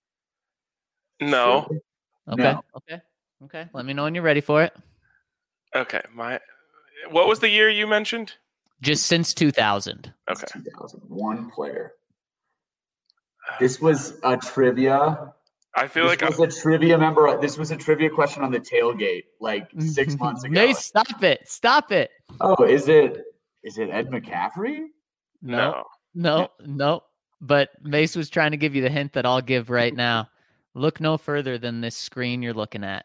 No. Okay. No. Okay. Let me know when you're ready for it. Okay. What was the year you mentioned? Just since 2000. Okay. 2001 player. This was a trivia. I feel like this was a trivia member. This was a trivia question on the tailgate 6 months ago. Mace, stop it. Oh, is it Ed McCaffrey? no. No. But Mace was trying to give you the hint that I'll give right now. Look no further than this screen you're looking at.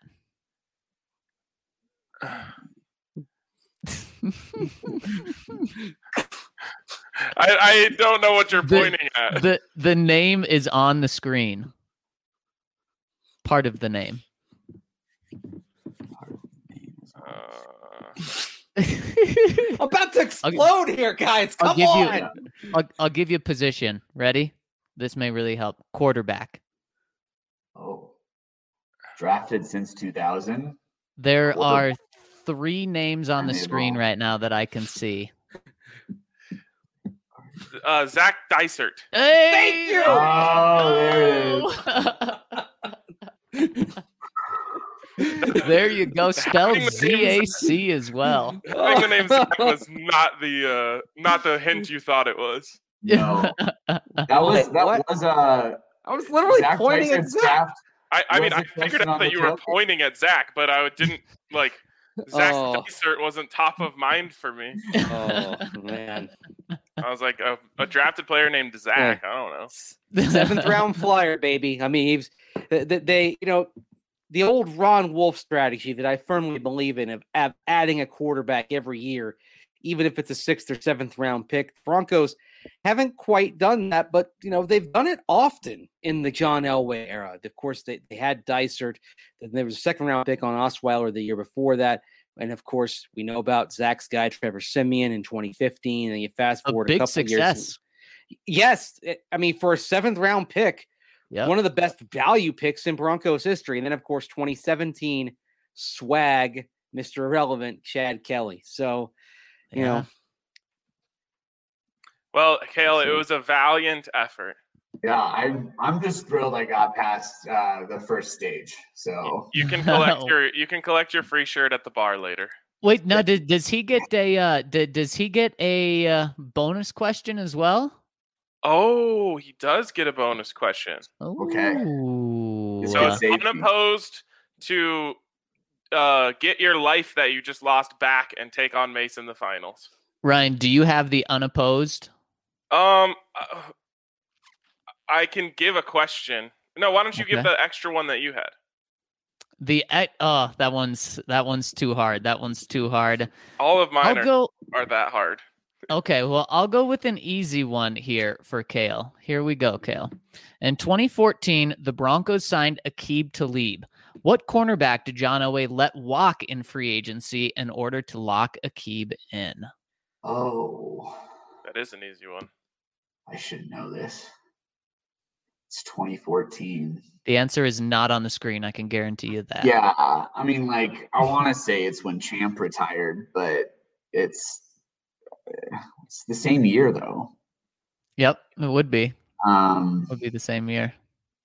I don't know what you're pointing at. The name is on the screen. Part of the name. I'm about to explode here, guys. Come on. I'll give you a position. Ready? This may really help. Quarterback. Oh, drafted since 2000. There are 3 names on the screen right now that I can see. Zach Dysert. Hey! Thank you! Oh, There you go. Spelled ZAC as well. I think the name Zach was not the hint you thought it was. No, that was I was literally Zach pointing at Dysart's Zach. draft. I mean, Was I the figured question out on that the you were tailgate? pointing at Zach, but I didn't like Zach Oh. Dysart wasn't top of mind for me. Oh man, I was like a drafted player named Zach. I don't know. 7th round flyer, baby. I mean, he's they the old Ron Wolf strategy that I firmly believe in of adding a quarterback every year, even if it's a 6th or 7th round pick. Broncos haven't quite done that, but they've done it often in the John Elway era. Of course, they had Dysart. Then there was a 2nd round pick on Osweiler the year before that. And of course, we know about Zach's guy, Trevor Siemian, in 2015. And you fast forward a big couple success. years. Yes. I mean, for a 7th round pick, Yep. one of the best value picks in Broncos history. And then, of course, 2017 swag, Mr. Irrelevant, Chad Kelly. So, you know. Well, Cale, it was a valiant effort. Yeah, I'm just thrilled I got past the first stage. So You can collect your free shirt at the bar later. Wait, no, does he get a bonus question as well? Oh, he does get a bonus question. Okay. Ooh. So it's unopposed to get your life that you just lost back and take on Mace in the finals. Ryan, do you have the unopposed? I can give a question. No, why don't you give the extra one that you had? That one's too hard. That one's too hard. All of mine are that hard. Okay, well, I'll go with an easy one here for Cale. Here we go, Cale. In 2014, the Broncos signed Aqib Talib. What cornerback did John Elway let walk in free agency in order to lock Aqib in? Oh, that is an easy one. I should know this. It's 2014. The answer is not on the screen. I can guarantee you that. Yeah, I mean, like, I want to say it's when Champ retired, but it's the same year though. Yep, it would be. It would be the same year.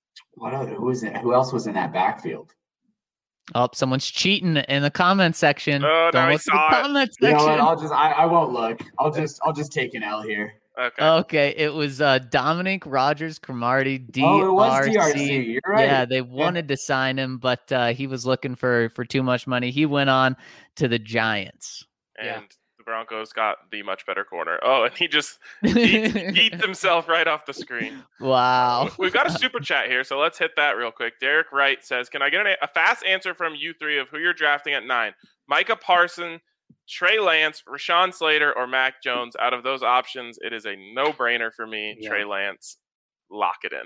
Who else was in that backfield? Oh, someone's cheating in the comment section. Oh, Don't now look at the comment section. You know what? I won't look. I'll just take an L here. Okay. It was Dominic Rogers Cromartie, DRC. Oh, it was DRC. You're right. Yeah, they wanted to sign him, but he was looking for too much money. He went on to the Giants. And the Broncos got the much better corner. Oh, and he just eats himself right off the screen. Wow. We've got a super chat here, so let's hit that real quick. Derek Wright says, can I get a fast answer from you three of who you're drafting at 9? Micah Parsons, Trey Lance, Rashawn Slater, or Mac Jones? Out of those options, it is a no-brainer for me. Yeah. Trey Lance, lock it in.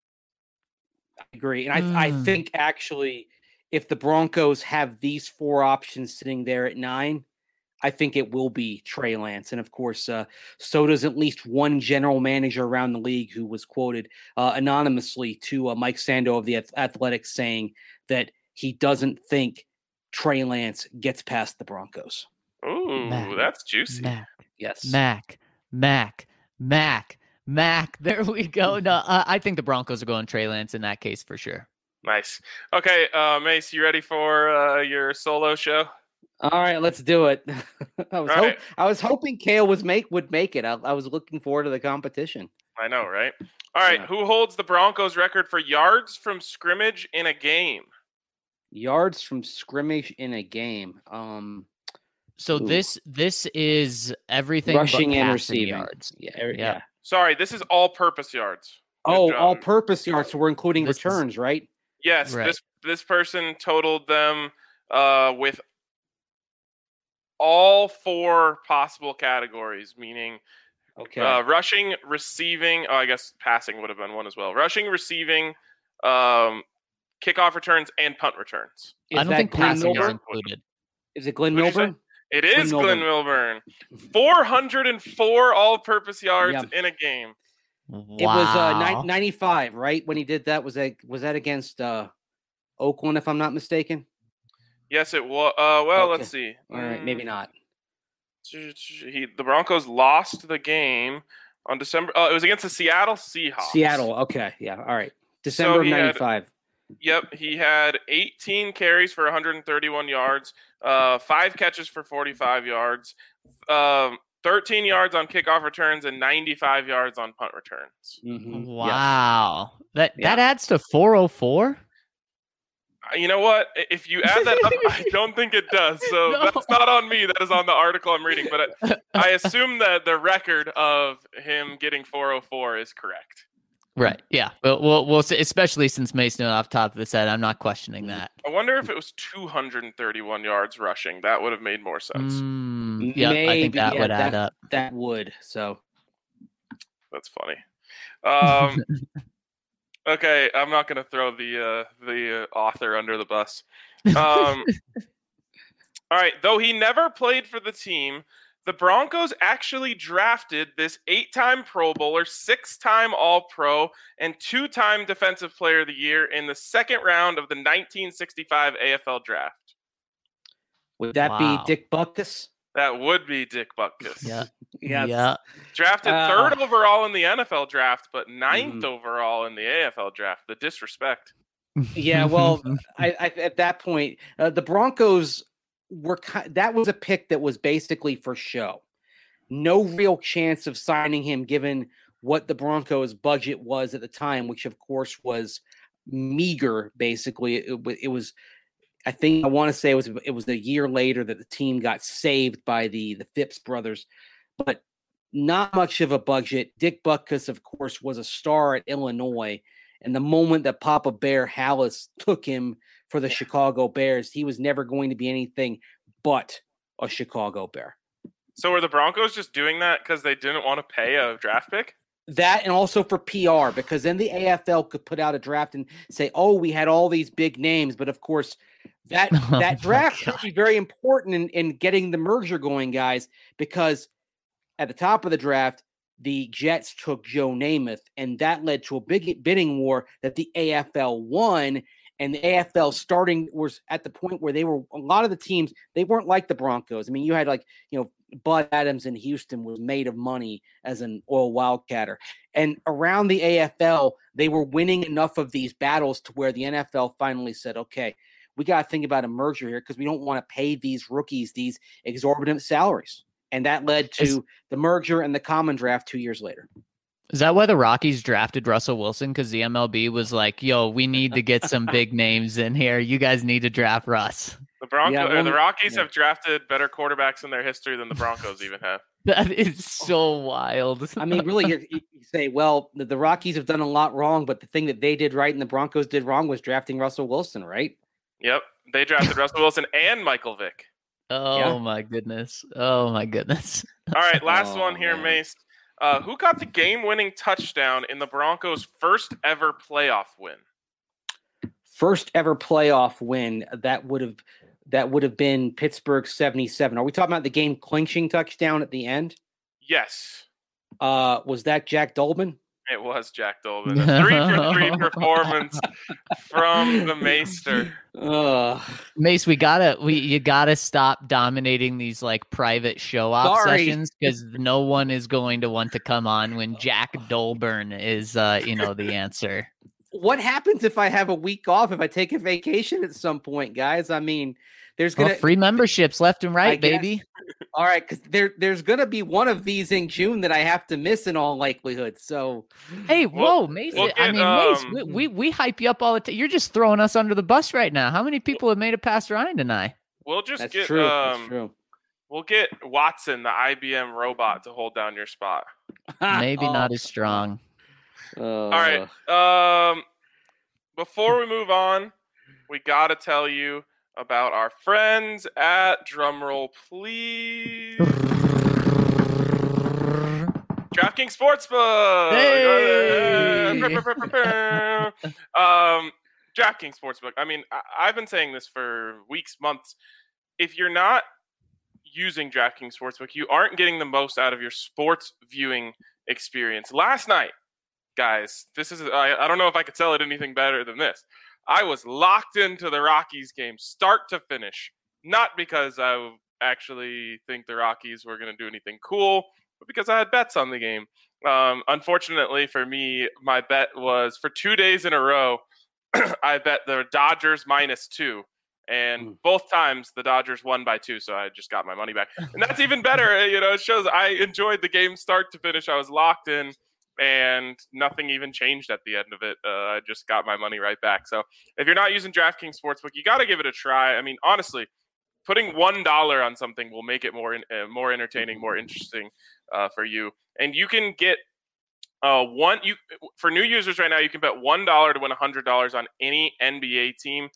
I agree. And I think actually if the Broncos have these 4 options sitting there at 9, I think it will be Trey Lance. And of course, so does at least one general manager around the league who was quoted anonymously to Mike Sando of the Athletics saying that he doesn't think Trey Lance gets past the Broncos. Ooh, that's juicy. Yes. Mac. There we go. No, I think the Broncos are going Trey Lance in that case for sure. Nice. Okay, Mace, you ready for your solo show? All right, let's do it. I was hoping Cale would make it. I was looking forward to the competition. I know, right? All right, Who holds the Broncos record for yards from scrimmage in a game? Yards from scrimmage in a game. So this is everything rushing but and receiving yards. Yeah. Sorry, this is all-purpose yards. All-purpose yards. So we're including returns, right? Yes. Right. This person totaled them with all 4 possible categories, meaning rushing, receiving. Oh, I guess passing would have been one as well. Rushing, receiving, kickoff returns, and punt returns. I don't think passing are included. Is it Glenn Milburn? It is Glenn Milburn. 404 all-purpose yards in a game. Wow. It was 95, right? When he did that, was that against Oakland, if I'm not mistaken? Yes, it was. Well, let's see. All right, maybe not. The Broncos lost the game on December. It was against the Seattle Seahawks. Seattle. Okay. Yeah. All right. December of 95. He had 18 carries for 131 yards, 5 catches for 45 yards, 13 yards on kickoff returns and 95 yards on punt returns. Mhm. Wow. That Yeah. adds to 404? You know what? If you add that up, I don't think it does. So No. that's not on me. That is on the article I'm reading. But I assume that the record of him getting 404 is correct. Right. Yeah. We'll see, especially since Mason off the top of his head. I'm not questioning that. I wonder if it was 231 yards rushing. That would have made more sense. Yeah, I think Maybe, that yeah, would add up. That would. So That's funny. Okay, I'm not going to throw the author under the bus. All right, though he never played for the team, the Broncos actually drafted this 8-time Pro Bowler, 6-time All-Pro, and 2-time Defensive Player of the Year in the second round of the 1965 AFL Draft. would that Wow. be Dick Butkus? That would be Dick Butkus. Yeah. Yes. Yeah. Drafted third overall in the NFL Draft, but ninth Mhm. overall in the AFL Draft. The disrespect. Yeah, well, I at that point, the Broncos were that was a pick that was basically for show. No real chance of signing him, given what the Broncos' budget was at the time, which of course was meager. Basically, it was. I think I want to say it was a year later that the team got saved by the Phipps brothers, but not much of a budget. Dick Butkus, of course, was a star at Illinois. And the moment that Papa Bear Hallis took him for the Chicago Bears, he was never going to be anything but a Chicago Bear. So were the Broncos just doing that because they didn't want to pay a draft pick? That and also for PR, because then the AFL could put out a draft and say, oh, we had all these big names. But of course, that draft would be very important in getting the merger going, guys, because at the top of the draft, the Jets took Joe Namath, and that led to a big bidding war that the AFL won. And the AFL was at the point where a lot of the teams, they weren't like the Broncos. I mean, you had Bud Adams in Houston was made of money as an oil wildcatter. And around the AFL, they were winning enough of these battles to where the NFL finally said, okay, we got to think about a merger here because we don't want to pay these rookies these exorbitant salaries. And that led to the merger and the common draft 2 years later. Is that why the Rockies drafted Russell Wilson? Because the MLB was like, yo, we need to get some big names in here. You guys need to draft Russ. The Rockies have drafted better quarterbacks in their history than the Broncos even have. That is so wild. I mean, really, you say, well, the Rockies have done a lot wrong, but the thing that they did right and the Broncos did wrong was drafting Russell Wilson, right? Yep. They drafted Russell Wilson and Michael Vick. Oh, my goodness. Oh, my goodness. All right, last one here, Mace. Who got the game-winning touchdown in the Broncos' first ever playoff win? First ever playoff win, that would have been Pittsburgh 77. Are we talking about the game clinching touchdown at the end? Yes. Was that Jack Dolbin? It was Jack Dolbin. A 3-for-3 performance from the Maester. Mace, you gotta stop dominating these like private show off sessions because no one is going to want to come on when Jack Dolburn is the answer. What happens if I have a week off, if I take a vacation at some point, guys? I mean, there's gonna free memberships left and right, baby. All right, because there's gonna be one of these in June that I have to miss in all likelihood. So, hey, Mace. Mace, we hype you up all the time. You're just throwing us under the bus right now. How many people have made it past Ryan tonight? We'll just That's get true. That's true. We'll get Watson, the IBM robot, to hold down your spot. Maybe not as strong. All right. Before we move on, we gotta tell you about our friends at drumroll, please. DraftKings Sportsbook. Hey! DraftKings Sportsbook. I mean, I've been saying this for weeks, months. If you're not using DraftKings Sportsbook, you aren't getting the most out of your sports viewing experience. Last night, guys, I don't know if I could sell it anything better than this. I was locked into the Rockies game, start to finish. Not because I actually think the Rockies were going to do anything cool, but because I had bets on the game. Unfortunately for me, my bet was for 2 days in a row, I bet the Dodgers -2. And both times the Dodgers won by 2, so I just got my money back. And that's even better. It shows I enjoyed the game start to finish. I was locked in, and nothing even changed at the end of it. I just got my money right back. So if you're not using DraftKings Sportsbook, you got to give it a try. I mean, honestly, putting $1 on something will make it more entertaining, more interesting for you. And you can get for new users right now, you can bet $1 to win $100 on any NBA team.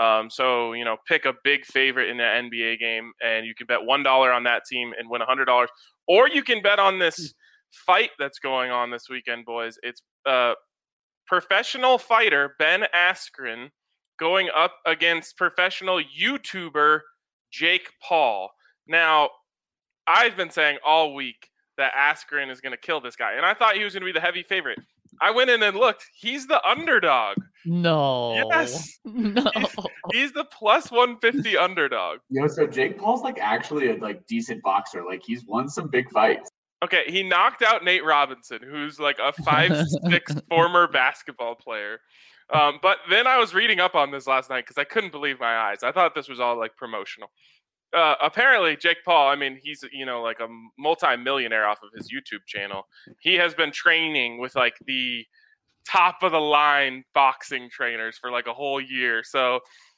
So pick a big favorite in the NBA game, and you can bet $1 on that team and win $100. Or you can bet on this fight that's going on this weekend, boys. It's professional fighter Ben Askren going up against professional YouTuber Jake Paul. Now, I've been saying all week that Askren is going to kill this guy, and I thought he was going to be the heavy favorite. I went in and looked. He's the underdog. No. Yes. No. He's the plus 150 underdog. So Jake Paul's actually a decent boxer. He's won some big fights. Okay, he knocked out Nate Robinson, who's a 5'6" former basketball player. But then I was reading up on this last night because I couldn't believe my eyes. I thought this was all promotional. Apparently, Jake Paul, I mean, he's, a multi-millionaire off of his YouTube channel. He has been training with the top of the line boxing trainers for a whole year. So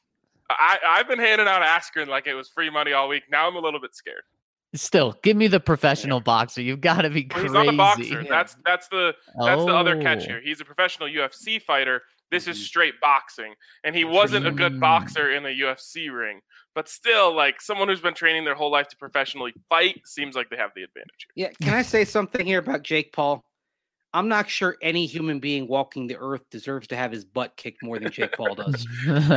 I've been handing out Askren like it was free money all week. Now I'm a little bit scared. Still, give me the professional boxer. You've got to be crazy. He's not a boxer. Yeah. That's the other catch here. He's a professional UFC fighter. This is straight boxing, and he wasn't a good boxer in a UFC ring. But still, someone who's been training their whole life to professionally fight seems like they have the advantage here. Yeah, can I say something here about Jake Paul? I'm not sure any human being walking the earth deserves to have his butt kicked more than Jake Paul does.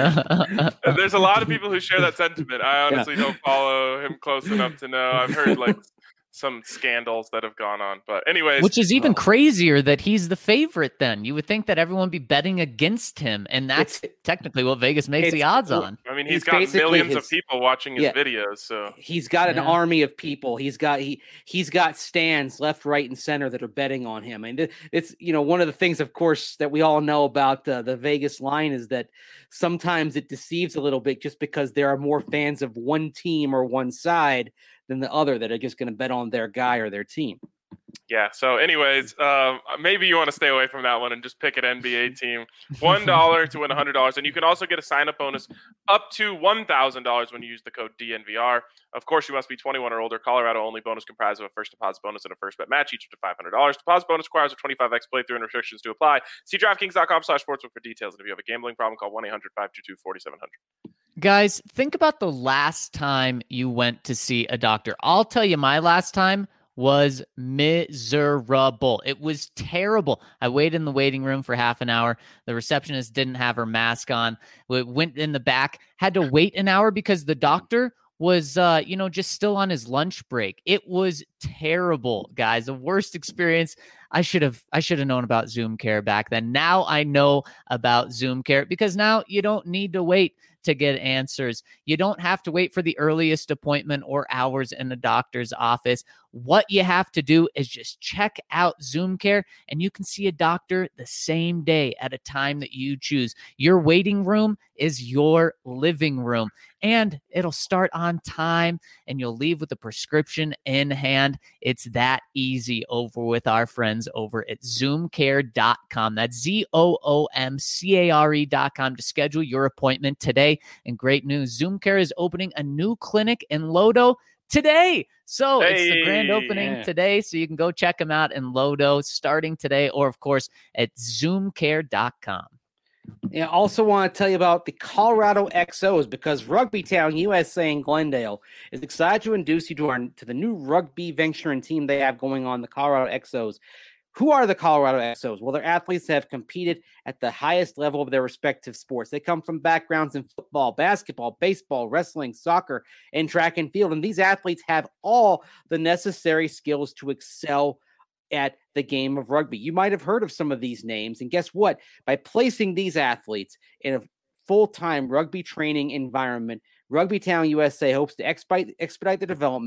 There's a lot of people who share that sentiment. I honestly don't follow him close enough to know. I've heard some scandals that have gone on. But anyways. Which is even crazier that he's the favorite then. You would think that everyone would be betting against him, and that's technically what Vegas makes the odds on. I mean, he's got millions of people watching his videos. So he's got an army of people. He's got stands left, right, and center that are betting on him. And it's one of the things, of course, that we all know about the Vegas line is that sometimes it deceives a little bit just because there are more fans of one team or one side than the other that are just going to bet on their guy or their team. Yeah. So anyways, maybe you want to stay away from that one and just pick an NBA team. $1 to win $100. And you can also get a sign-up bonus up to $1,000 when you use the code DNVR. Of course, you must be 21 or older. Colorado only. Bonus comprised of a first deposit bonus and a first bet match, each up to $500. Deposit bonus requires a 25x playthrough and restrictions to apply. See DraftKings.com/sportsbook for details. And if you have a gambling problem, call 1-800-522-4700. Guys, think about the last time you went to see a doctor. I'll tell you, my last time was miserable. It was terrible. I waited in the waiting room for half an hour. The receptionist didn't have her mask on. We went in the back, had to wait an hour because the doctor was, just still on his lunch break. It was terrible, guys. The worst experience. I should have known about Zoom Care back then. Now I know about Zoom Care because now you don't need to wait to get answers. You don't have to wait for the earliest appointment or hours in the doctor's office. What you have to do is just check out Zoom Care, and you can see a doctor the same day at a time that you choose. Your waiting room is your living room, and it'll start on time, and you'll leave with a prescription in hand. It's that easy over with our friends over at ZoomCare.com. That's ZoomCare.com to schedule your appointment today. And great news, Zoom Care is opening a new clinic in Lodo today. So it's the grand opening today. So you can go check them out in Lodo starting today, or of course at ZoomCare.com. I also want to tell you about the Colorado XOs because Rugby Town USA in Glendale is excited to introduce you to the new rugby venture and team they have going on, the Colorado XOs. Who are the Colorado XOs? Well, they're athletes that have competed at the highest level of their respective sports. They come from backgrounds in football, basketball, baseball, wrestling, soccer, and track and field. And these athletes have all the necessary skills to excel at the game of rugby. You might have heard of some of these names. And guess what? By placing these athletes in a full-time rugby training environment, Rugby Town USA hopes to expedite the development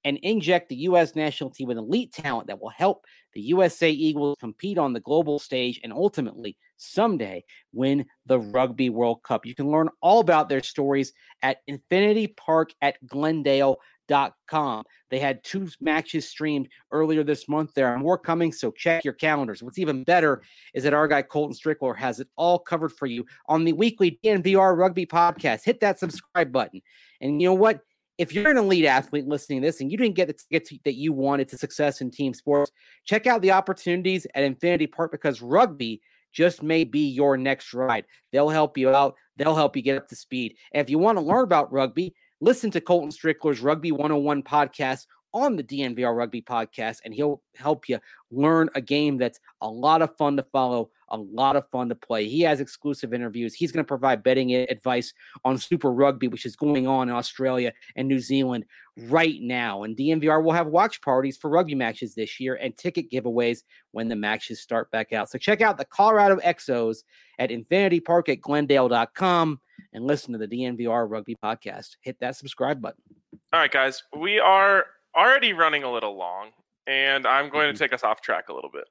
and inject the U.S. national team with elite talent that will help the USA Eagles compete on the global stage and ultimately someday win the Rugby World Cup. You can learn all about their stories at Infinity Park at Glendale.com. They had 2 matches streamed earlier this month. There are more coming, so check your calendars. What's even better is that our guy Colton Strickler has it all covered for you on the weekly DNVR Rugby podcast. Hit that subscribe button. And you know what? If you're an elite athlete listening to this and you didn't get the tickets that you wanted to success in team sports, check out the opportunities at Infinity Park, because rugby just may be your next ride. They'll help you out. They'll help you get up to speed. And if you want to learn about rugby, listen to Colton Strickler's Rugby 101 podcast on the DNVR Rugby podcast, and he'll help you learn a game that's a lot of fun to follow, a lot of fun to play. He has exclusive interviews. He's going to provide betting advice on Super Rugby, which is going on in Australia and New Zealand right now. And DNVR will have watch parties for rugby matches this year and ticket giveaways when the matches start back out. So check out the Colorado Exos at Infinity Park at Glendale.com and listen to the DNVR Rugby podcast. Hit that subscribe button. All right, guys, we are already running a little long, and I'm going to take us off track a little bit.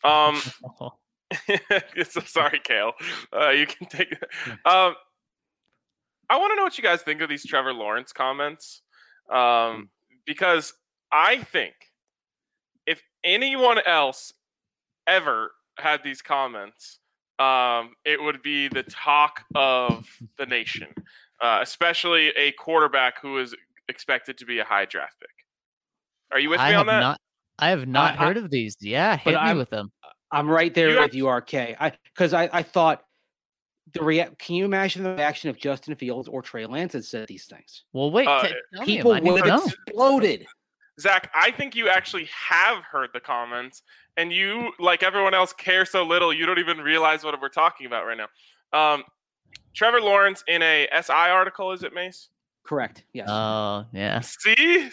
So sorry, Kale. You can take it. I want to know what you guys think of these Trevor Lawrence comments, because I think if anyone else ever had these comments, it would be the talk of the nation, especially a quarterback who is expected to be a high draft pick. Are you with me on that? I have not heard of these. Yeah, hit me with them. I'm right there with you, RK. Because I thought can you imagine the reaction if Justin Fields or Trey Lance had said these things? Well, wait, people would have exploded. Zach, I think you actually have heard the comments, and you, like everyone else, care so little you don't even realize what we're talking about right now. Trevor Lawrence in a SI article, is it, Mace? Correct. Yes. Oh, yeah. See?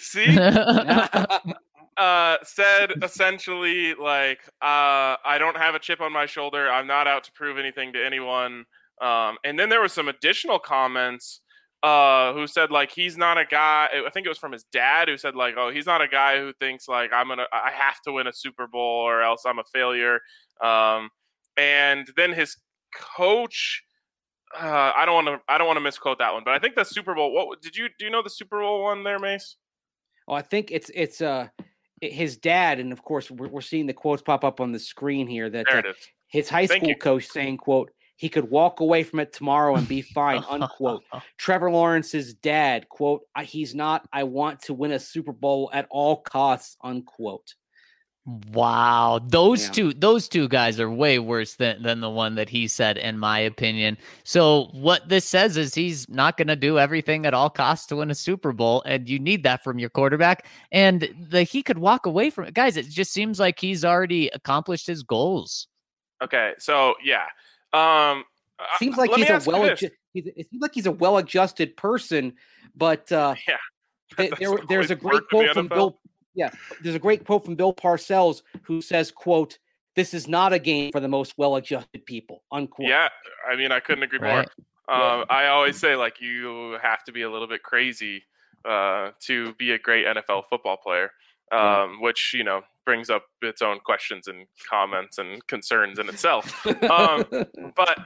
Said essentially like, I don't have a chip on my shoulder. I'm not out to prove anything to anyone. And then there were some additional comments who said like he's not a guy. I think it was from his dad who said like, oh, he's not a guy who thinks like I have to win a Super Bowl or else I'm a failure. And then his coach. I don't want to misquote that one, but I think the Super Bowl. Do you know the Super Bowl one there, Mace? Oh, I think it's his dad, and of course we're seeing the quotes pop up on the screen here. That his high school coach saying, "quote He could walk away from it tomorrow and be fine," unquote. Trevor Lawrence's dad, quote, "He's not. I want to win a Super Bowl at all costs," unquote. Wow, those two guys are way worse than the one that he said, in my opinion. So what this says is he's not going to do everything at all costs to win a Super Bowl, and you need that from your quarterback. And he could walk away from it, guys. It just seems like he's already accomplished his goals. Okay, so yeah, seems like it seems like he's a well-adjusted person, but there's a great quote from Bill. Yeah, there's a great quote from Bill Parcells who says, quote, "This is not a game for the most well-adjusted people," unquote. Yeah, I mean, I couldn't agree more. I always say, like, you have to be a little bit crazy to be a great NFL football player, which, brings up its own questions and comments and concerns in itself. But,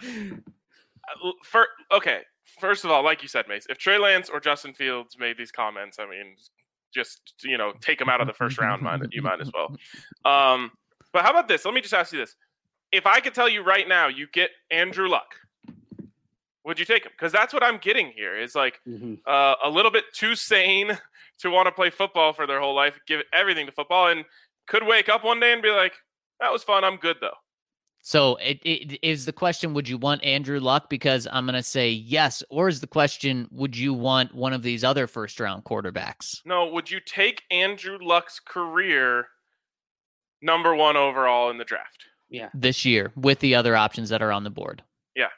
first of all, like you said, Mace, if Trey Lance or Justin Fields made these comments, I mean, just take them out of the first round. You might as well. But how about this? Let me just ask you this: if I could tell you right now, you get Andrew Luck, would you take him? Because that's what I'm getting here. Is like a little bit too sane to want to play football for their whole life, give everything to football, and could wake up one day and be like, "That was fun. I'm good though." So it is the question, would you want Andrew Luck? Because I'm going to say yes. Or is the question, would you want one of these other first-round quarterbacks? No, would you take Andrew Luck's career number 1 overall in the draft? Yeah. This year, with the other options that are on the board. Yeah.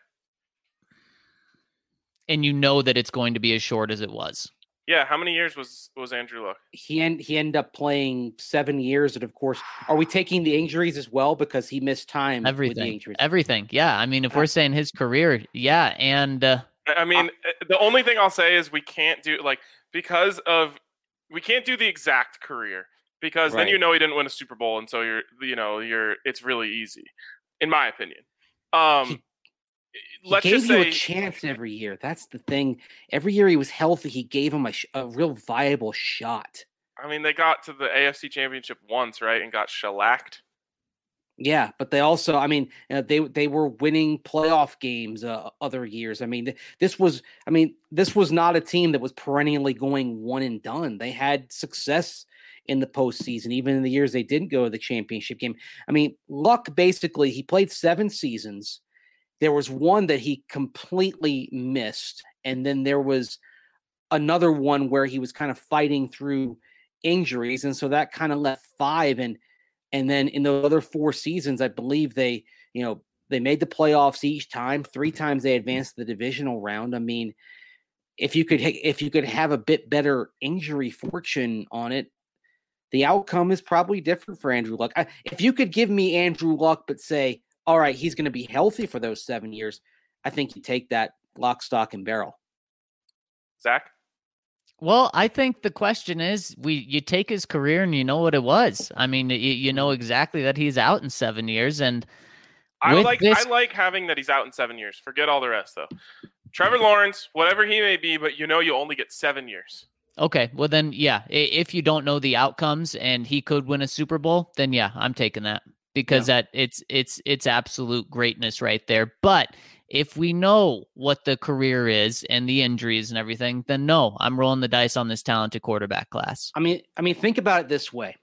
And you know that it's going to be as short as it was. Yeah, how many years was Andrew Luck? He ended up playing 7 years, and of course, are we taking the injuries as well because he missed time? With the injuries? Everything. Yeah, I mean, if we're saying his career, yeah, and I mean, the only thing I'll say is we can't do because of we can't do the exact career because then Right. he didn't win a Super Bowl, and so it's really easy, in my opinion. He Let's gave just you say a chance every year. That's the thing. Every year he was healthy, he gave him a real viable shot. I mean, they got to the AFC Championship once, right, and got shellacked. Yeah, but they also, I mean, they were winning playoff games other years. I mean, this was not a team that was perennially going one and done. They had success in the postseason, even in the years they didn't go to the championship game. I mean, Luck basically, he played 7 seasons. There was one that he completely missed, and then there was another one where he was kind of fighting through injuries, and so that kind of left 5. And then in the other 4 seasons, I believe they made the playoffs each time. 3 times they advanced the divisional round. I mean, if you could have a bit better injury fortune on it, the outcome is probably different for Andrew Luck. If you could give me Andrew Luck, but say, all right, he's going to be healthy for those 7 years, I think you take that lock, stock, and barrel. Zach? Well, I think the question is, you take his career and you know what it was. I mean, you know exactly that he's out in 7 years, and I like having that he's out in 7 years. Forget all the rest, though. Trevor Lawrence, whatever he may be, but you only get 7 years. Okay, well then, yeah, if you don't know the outcomes and he could win a Super Bowl, then yeah, I'm taking that because it's absolute greatness right there. But if we know what the career is and the injuries and everything, then no, I'm rolling the dice on this talented quarterback class. I mean, think about it this way: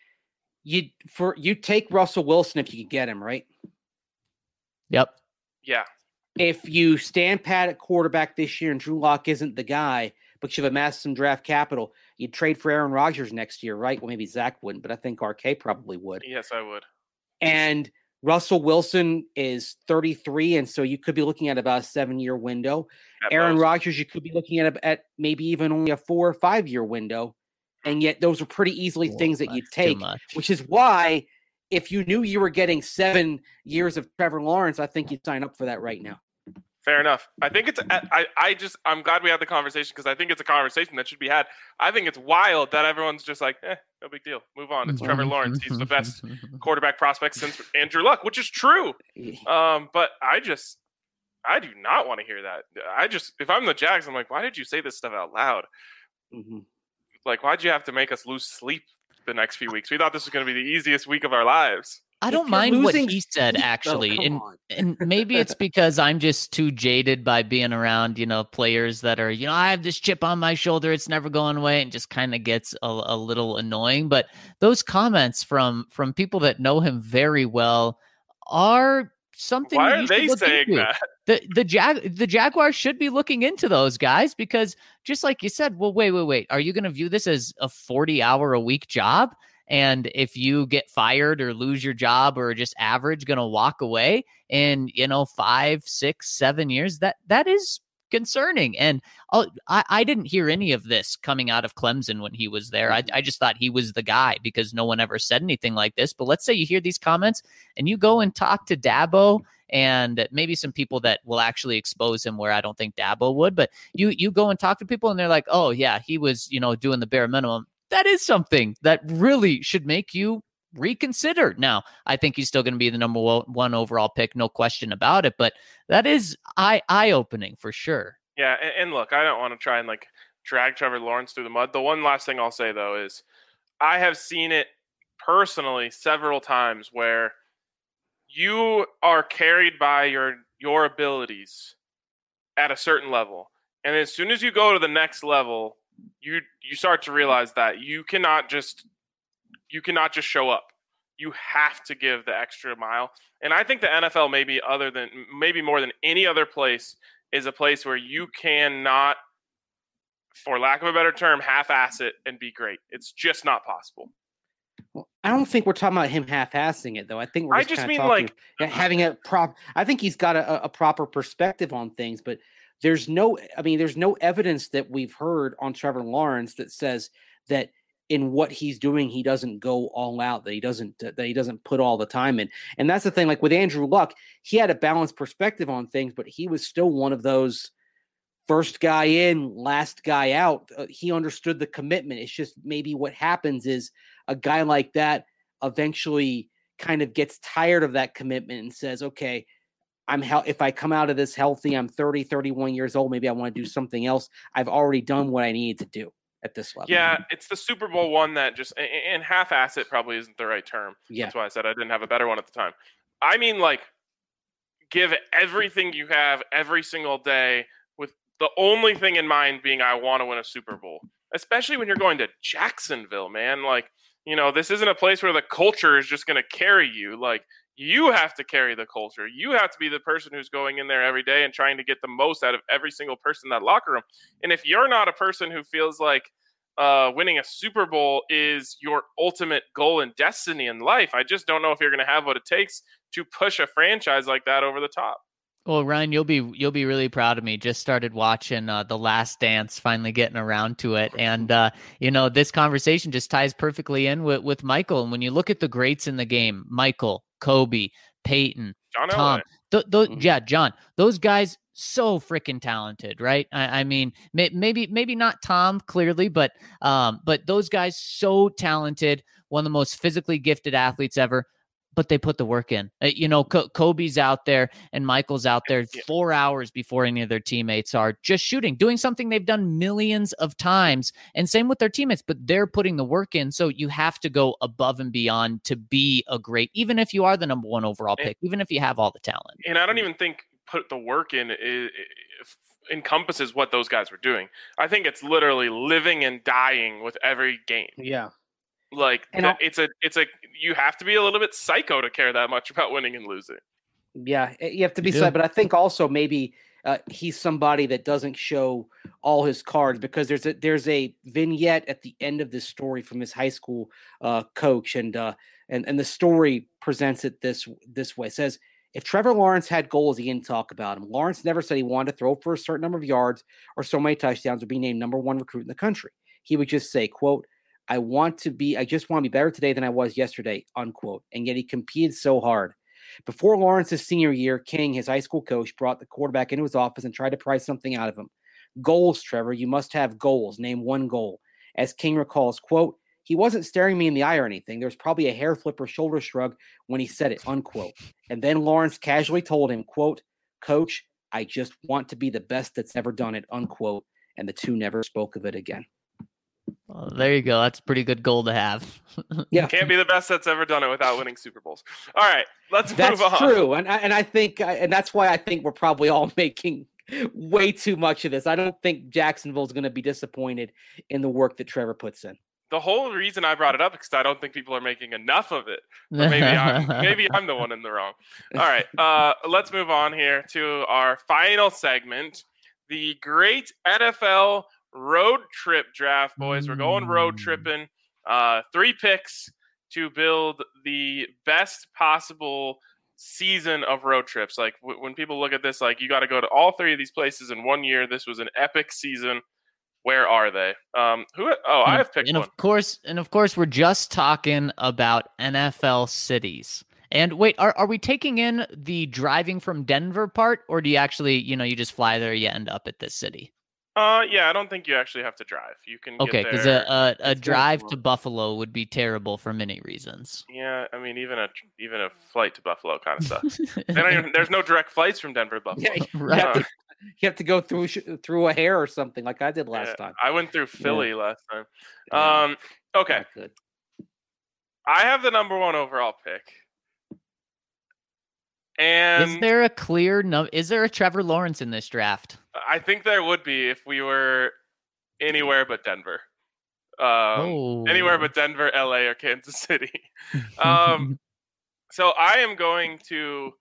you take Russell Wilson if you can get him, right? Yep. Yeah. If you stand pat at quarterback this year and Drew Lock isn't the guy, but you've amassed some draft capital, you'd trade for Aaron Rodgers next year, right? Well, maybe Zach wouldn't, but I think RK probably would. Yes, I would. And Russell Wilson is 33, and so you could be looking at about a 7-year window. Aaron Rodgers, you could be looking at maybe even only a 4 or 5 year window. And yet those are pretty easily things that you take, which is why if you knew you were getting 7 years of Trevor Lawrence, I think you'd sign up for that right now. Fair enough. I think I'm glad we had the conversation because I think it's a conversation that should be had. I think it's wild that everyone's just like, no big deal. Move on. It's Trevor Lawrence. He's the best quarterback prospect since Andrew Luck, which is true. But I do not want to hear that. If I'm the Jags, I'm like, why did you say this stuff out loud? Mm-hmm. Like, why'd you have to make us lose sleep the next few weeks? We thought this was going to be the easiest week of our lives. I don't mind what he said, actually. And maybe it's because I'm just too jaded by being around, players that are, I have this chip on my shoulder. It's never going away, and just kind of gets a little annoying. But those comments from people that know him very well are something. Why are they saying that? The Jaguars should be looking into those guys because just like you said, well, wait. Are you going to view this as a 40-hour-a-week job? And if you get fired or lose your job or just average, going to walk away in, 5, 6, 7 years, that is concerning. And I didn't hear any of this coming out of Clemson when he was there. I just thought he was the guy because no one ever said anything like this. But let's say you hear these comments and you go and talk to Dabo and maybe some people that will actually expose him where I don't think Dabo would. But you go and talk to people and they're like, oh, yeah, he was, doing the bare minimum. That is something that really should make you reconsider. Now, I think he's still going to be the number 1 overall pick, no question about it, but that is eye-opening for sure. Yeah, and look, I don't want to try and drag Trevor Lawrence through the mud. The one last thing I'll say, though, is I have seen it personally several times where you are carried by your abilities at a certain level, and as soon as you go to the next level, you start to realize that you cannot just show up. You have to give the extra mile. And I think the NFL maybe more than any other place is a place where you cannot, for lack of a better term, half-ass it and be great. It's just not possible. Well, I don't think we're talking about him half-assing it, though. I think we're just talking having a prop. I think he's got a proper perspective on things, but there's no evidence that we've heard on Trevor Lawrence that says that in what he's doing, he doesn't go all out, that he doesn't put all the time in. And that's the thing, like with Andrew Luck, he had a balanced perspective on things, but he was still one of those first guy in, last guy out. He understood the commitment. It's just maybe what happens is a guy like that eventually kind of gets tired of that commitment and says, okay, if I come out of this healthy, I'm 30, 31 years old, maybe I want to do something else. I've already done what I needed to do at this level. Yeah, it's the Super Bowl one that just, and half-ass it probably isn't the right term. Yeah. That's why I said I didn't have a better one at the time. I mean, like, give everything you have every single day with the only thing in mind being I want to win a Super Bowl, especially when you're going to Jacksonville, man. Like, you know, this isn't a place where the culture is just going to carry you. Like, you have to carry the culture. You have to be the person who's going in there every day and trying to get the most out of every single person in that locker room. And if you're not a person who feels like winning a Super Bowl is your ultimate goal and destiny in life, I just don't know if you're going to have what it takes to push a franchise like that over the top. Well, Ryan, you'll be really proud of me. Just started watching The Last Dance, finally getting around to it, and this conversation just ties perfectly in with Michael. And when you look at the greats in the game, Michael, Kobe, Peyton, John Tom, Elway. John, those guys so freaking talented, right? I mean, maybe not Tom clearly, but those guys so talented, one of the most physically gifted athletes ever. But they put the work in. Kobe's out there and Michael's out there 4 hours before any of their teammates are, just shooting, doing something they've done millions of times. And same with their teammates, but they're putting the work in. So you have to go above and beyond to be a great, even if you are the number one overall pick, even if you have all the talent. And I don't even think put the work in encompasses what those guys were doing. I think it's literally living and dying with every game. Yeah. Like, it's a you have to be a little bit psycho to care that much about winning and losing. Yeah, you have to be psycho, but I think also maybe he's somebody that doesn't show all his cards, because there's a vignette at the end of this story from his high school coach, and the story presents it this way. It says, if Trevor Lawrence had goals, he didn't talk about them. Lawrence never said he wanted to throw for a certain number of yards or so many touchdowns or be named number one recruit in the country. He would just say, quote, I just want to be better today than I was yesterday, unquote. And yet he competed so hard. Before Lawrence's senior year, King, his high school coach, brought the quarterback into his office and tried to pry something out of him. Goals, Trevor. You must have goals. Name one goal. As King recalls, quote, he wasn't staring me in the eye or anything. There was probably a hair flip or shoulder shrug when he said it, unquote. And then Lawrence casually told him, quote, Coach, I just want to be the best that's ever done it, unquote. And the two never spoke of it again. Well, there you go. That's a pretty good goal to have. Yeah, can't be the best that's ever done it without winning Super Bowls. All right, let's move on. That's true, and I think, and that's why I think we're probably all making way too much of this. I don't think Jacksonville's going to be disappointed in the work that Trevor puts in. The whole reason I brought it up is because I don't think people are making enough of it. But maybe I'm the one in the wrong. All right, let's move on here to our final segment, the great NFL road trip draft, boys. We're going road tripping. 3 picks to build the best possible season of road trips. Like, when people look at this, like, you got to go to all 3 of these places in 1 year. This was an epic season. Where are they? I have picked one. Of course, we're just talking about NFL cities. And wait, are we taking in the driving from Denver part, or do you actually, you just fly there, you end up at this city? Yeah, I don't think you actually have to drive. You can okay, get there. Because a drive to Buffalo would be terrible for many reasons. Yeah, I mean, even a flight to Buffalo kind of sucks. There's no direct flights from Denver to Buffalo. Yeah, right. You have to go through a hair or something like I did last time. I went through Philly last time. Okay. I have the number 1 overall pick. And is there a Trevor Lawrence in this draft? I think there would be if we were anywhere but Denver. Anywhere but Denver, LA, or Kansas City. So I am going to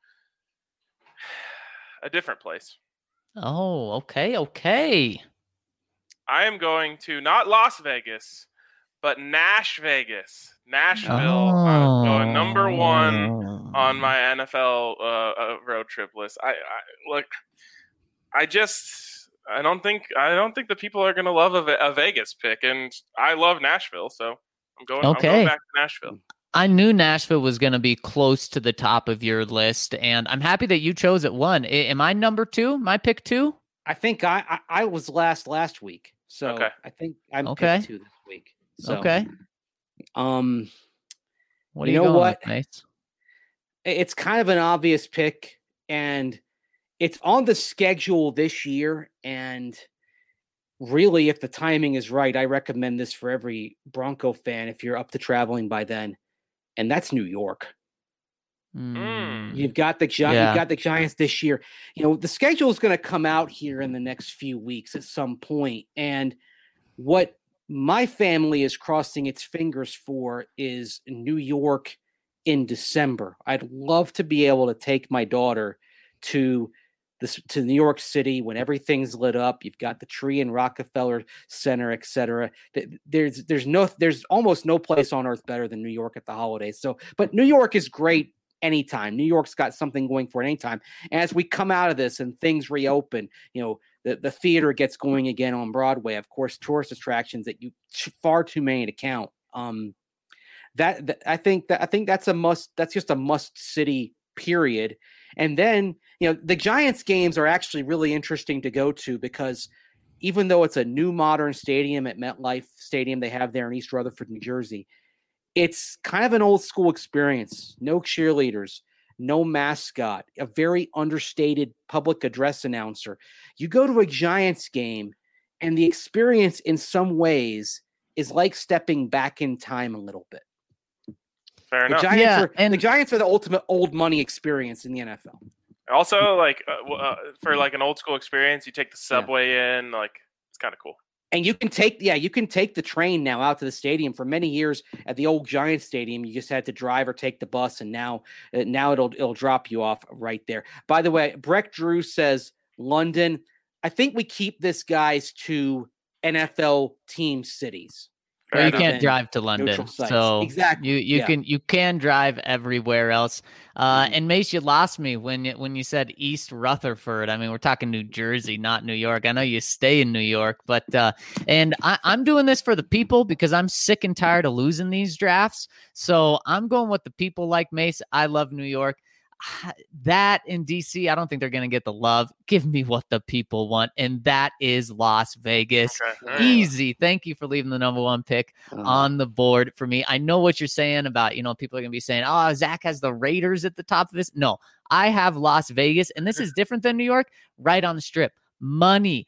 a different place. Oh, okay. I am going to not Las Vegas, but Nash Vegas. Nashville. I'm going number 1 on my NFL road trip list. I don't think the people are going to love a Vegas pick, and I love Nashville, so I'm going back to Nashville. I knew Nashville was going to be close to the top of your list, and I'm happy that you chose it 1. Am I number 2? My pick 2? I think I was last week, so Okay. I think I'm Okay. pick 2 this week. So, Okay. What What You are you know going what? with, Mace? It's kind of an obvious pick, and it's on the schedule this year. And really, if the timing is right, I recommend this for every Bronco fan if you're up to traveling by then, and that's New York. You've got the Giants this year. You know, the schedule is going to come out here in the next few weeks at some point, and what my family is crossing its fingers for is New York in December. I'd love to be able to take my daughter to New York City when everything's lit up. You've got the tree in Rockefeller Center, etc. There's almost no place on earth better than New York at the holidays. So, but New York is great anytime. New York's got something going for it anytime. And as we come out of this and things reopen, you know, the theater gets going again on Broadway. Of course, tourist attractions that you far too many to count. I think that's a must. That's just a must city period. And then, you know, the Giants games are actually really interesting to go to because even though it's a new modern stadium at MetLife Stadium they have there in East Rutherford, New Jersey, it's kind of an old school experience. No cheerleaders, no mascot, a very understated public address announcer. You go to a Giants game and the experience in some ways is like stepping back in time a little bit. Fair enough. The Giants are the ultimate old money experience in the NFL. Also, like for like an old school experience, you take the subway in. Like it's kind of cool. And you can take the train now out to the stadium. For many years at the old Giants Stadium, you just had to drive or take the bus, and now it'll drop you off right there. By the way, Breck Drew says London. I think we keep this guys to NFL team cities. Well, you can't drive to London, so exactly. You can drive everywhere else. And Mace, you lost me when you said East Rutherford. I mean, we're talking New Jersey, not New York. I know you stay in New York, but and I'm doing this for the people because I'm sick and tired of losing these drafts. So I'm going with the people like Mace. I love New York. That in DC, I don't think they're going to get the love. Give me what the people want, and that is Las Vegas. Okay. Easy. Thank you for leaving the number 1 pick on the board for me. I know what you're saying about, you know, people are going to be saying, oh, Zach has the Raiders at the top of this. No, I have Las Vegas, and this is different than New York, right on the strip. Money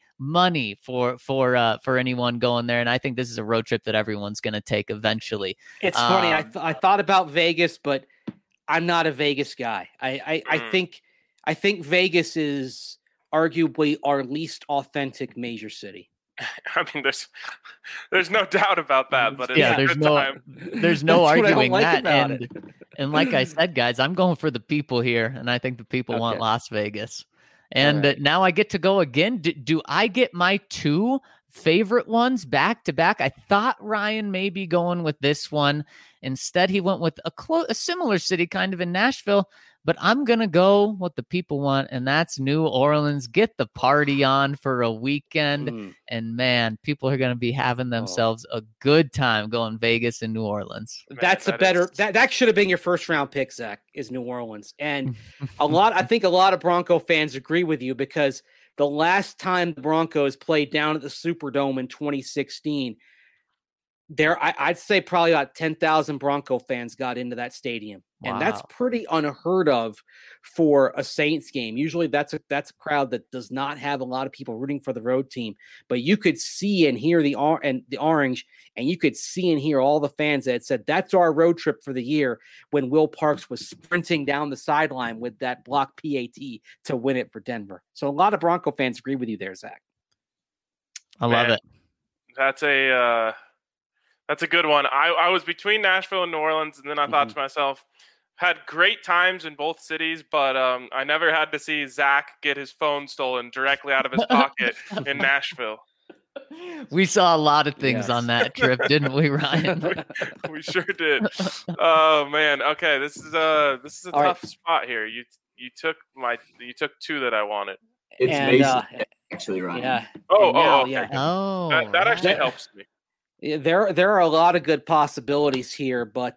for anyone going there, and I think this is a road trip that everyone's going to take eventually. It's funny. I thought about Vegas, but I'm not a Vegas guy. I think Vegas is arguably our least authentic major city. I mean, there's no doubt about that. But there's no arguing that. And like I said, guys, I'm going for the people here, and I think the people want Las Vegas. And now I get to go again. Do I get my 2 favorite ones back to back? I thought Ryan may be going with this one. Instead, he went with a similar city, kind of in Nashville. But I'm going to go what the people want, and that's New Orleans. Get the party on for a weekend. And, man, people are going to be having themselves a good time going Vegas and New Orleans. That should have been your first-round pick, Zach, is New Orleans. And I think a lot of Bronco fans agree with you because the last time the Broncos played down at the Superdome in 2016, I'd say probably about 10,000 Bronco fans got into that stadium. Wow. And that's pretty unheard of for a Saints game. Usually that's a crowd that does not have a lot of people rooting for the road team, but you could see and hear the orange, and you could see and hear all the fans that said that's our road trip for the year when Will Parks was sprinting down the sideline with that block PAT to win it for Denver. So a lot of Bronco fans agree with you there, Zach. I love it. That's a good one. I was between Nashville and New Orleans, and then I thought to myself, had great times in both cities, but I never had to see Zach get his phone stolen directly out of his pocket in Nashville. We saw a lot of things on that trip, didn't we, Ryan? we sure did. Oh man. Okay, this is a tough spot here. You took 2 that I wanted. It's Mason, actually, Ryan. Yeah. That actually helps me. There are a lot of good possibilities here, but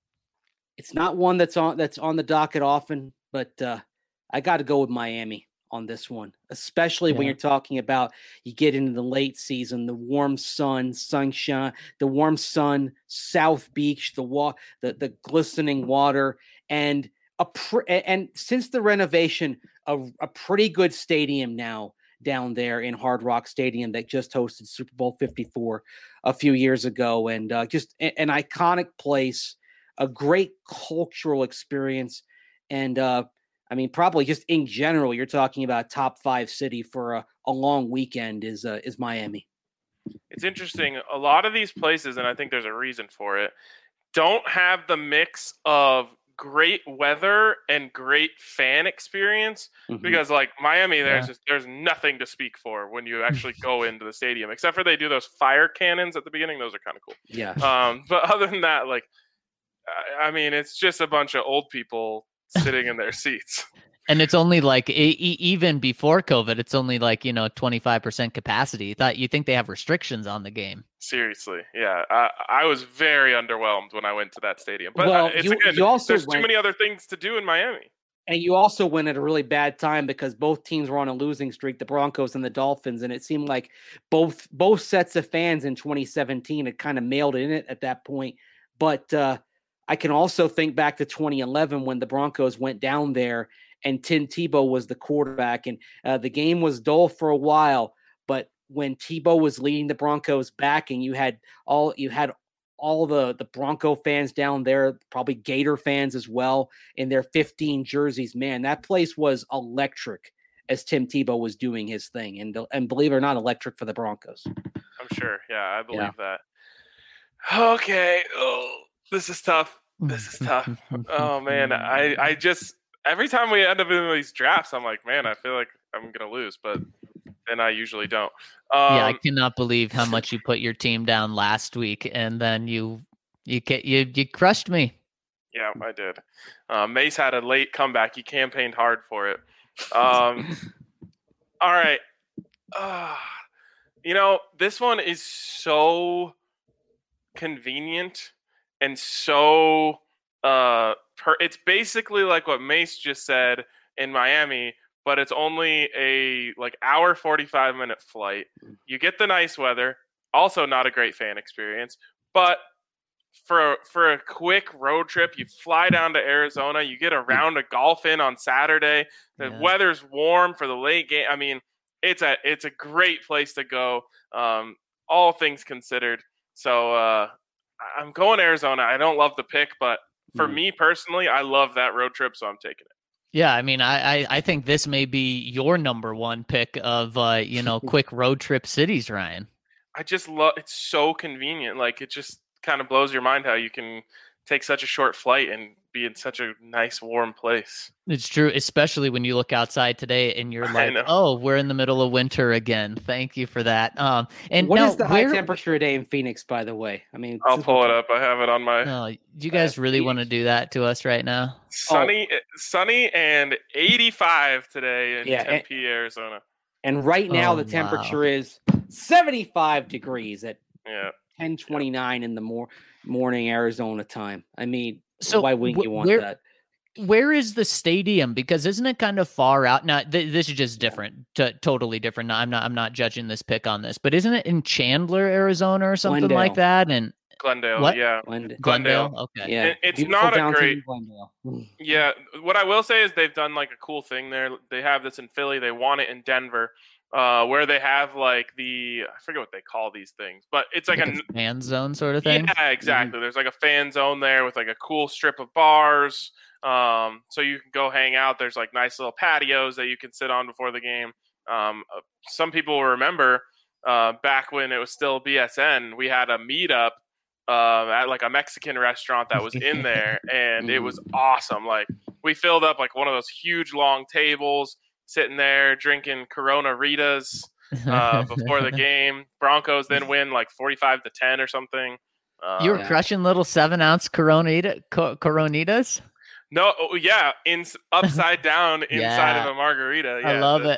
it's not one that's on the docket often. But I got to go with Miami on this one, especially when Yeah. you're talking about you get into the late season, the warm sun, sunshine, the warm sun, South Beach, the glistening water, and and since the renovation, a pretty good stadium now down there in Hard Rock Stadium that just hosted Super Bowl 54 a few years ago, and just an iconic place, a great cultural experience, and I mean, probably just in general, you're talking about a top 5 city for a long weekend is Miami. It's interesting. A lot of these places, and I think there's a reason for it, don't have the mix of great weather and great fan experience, because like Miami, there's nothing to speak for when you actually go into the stadium, except for they do those fire cannons at the beginning. Those are kind of cool. Yeah. But other than that, like, I mean, it's just a bunch of old people sitting in their seats. And it's only like even before COVID, it's only like 25% capacity. You think they have restrictions on the game? Seriously, yeah. I was very underwhelmed when I went to that stadium. But well, there's too many other things to do in Miami. And you also went at a really bad time because both teams were on a losing streak, the Broncos and the Dolphins, and it seemed like both sets of fans in 2017 had kind of mailed it in at that point. But I can also think back to 2011 when the Broncos went down there and Tim Tebow was the quarterback, and the game was dull for a while. But when Tebow was leading the Broncos back, and you had all the Bronco fans down there, probably Gator fans as well, in their 15 jerseys, man, that place was electric as Tim Tebow was doing his thing, and believe it or not, electric for the Broncos. I'm sure. Yeah, I believe that. Okay. Oh, this is tough. Oh man, I just every time we end up in these drafts, I'm like, man, I feel like I'm gonna lose, but then I usually don't. Yeah, I cannot believe how much you put your team down last week, and then you crushed me. Yeah, I did. Mace had a late comeback. He campaigned hard for it. All right. This one is so convenient and so it's basically like what Mace just said in Miami, but it's only a hour 45-minute flight. You get the nice weather, also not a great fan experience, but for a quick road trip, you fly down to Arizona, you get a round of golf in on Saturday. The weather's warm for the late game. I mean, it's a great place to go, all things considered. So I'm going Arizona. I don't love the pick, but for me personally, I love that road trip, so I'm taking it. Yeah, I mean, I think this may be your number one pick of quick road trip cities, Ryan. I just love it's so convenient. Like, it just kind of blows your mind how you can take such a short flight and be in such a nice warm place. It's true, especially when you look outside today and you're like, oh, we're in the middle of winter again. Thank you for that. And what is the high temperature today in Phoenix, by the way? I mean, I'll pull it up. I have it on my. No, do you guys really want to do that to us right now? Sunny and 85 today in Tempe, Arizona. And right now the temperature is 75 degrees at 10:29 in the morning Arizona time. I mean, so why wouldn't you want that? Where is the stadium? Because isn't it kind of far out? Now, this is just different, totally different. I'm not judging this pick on this, but isn't it in Chandler, Arizona, or something like that? And Glendale, what? yeah, Glendale. Okay, yeah, it's not a great. Glendale. Yeah, what I will say is they've done like a cool thing there. They have this in Philly. They want it in Denver. Where they have like I forget what they call these things, but it's like a fan zone sort of thing. Yeah, exactly. Mm-hmm. There's like a fan zone there with like a cool strip of bars. So you can go hang out. There's like nice little patios that you can sit on before the game. Some people will remember back when it was still BSN, we had a meetup at like a Mexican restaurant that was in there, and it was awesome. Like, we filled up like one of those huge long tables, sitting there drinking Corona Ritas before the game. Broncos then win like 45-10 or something. You were crushing little 7-ounce Coronitas? No, upside down inside of a margarita. Yeah, I love it.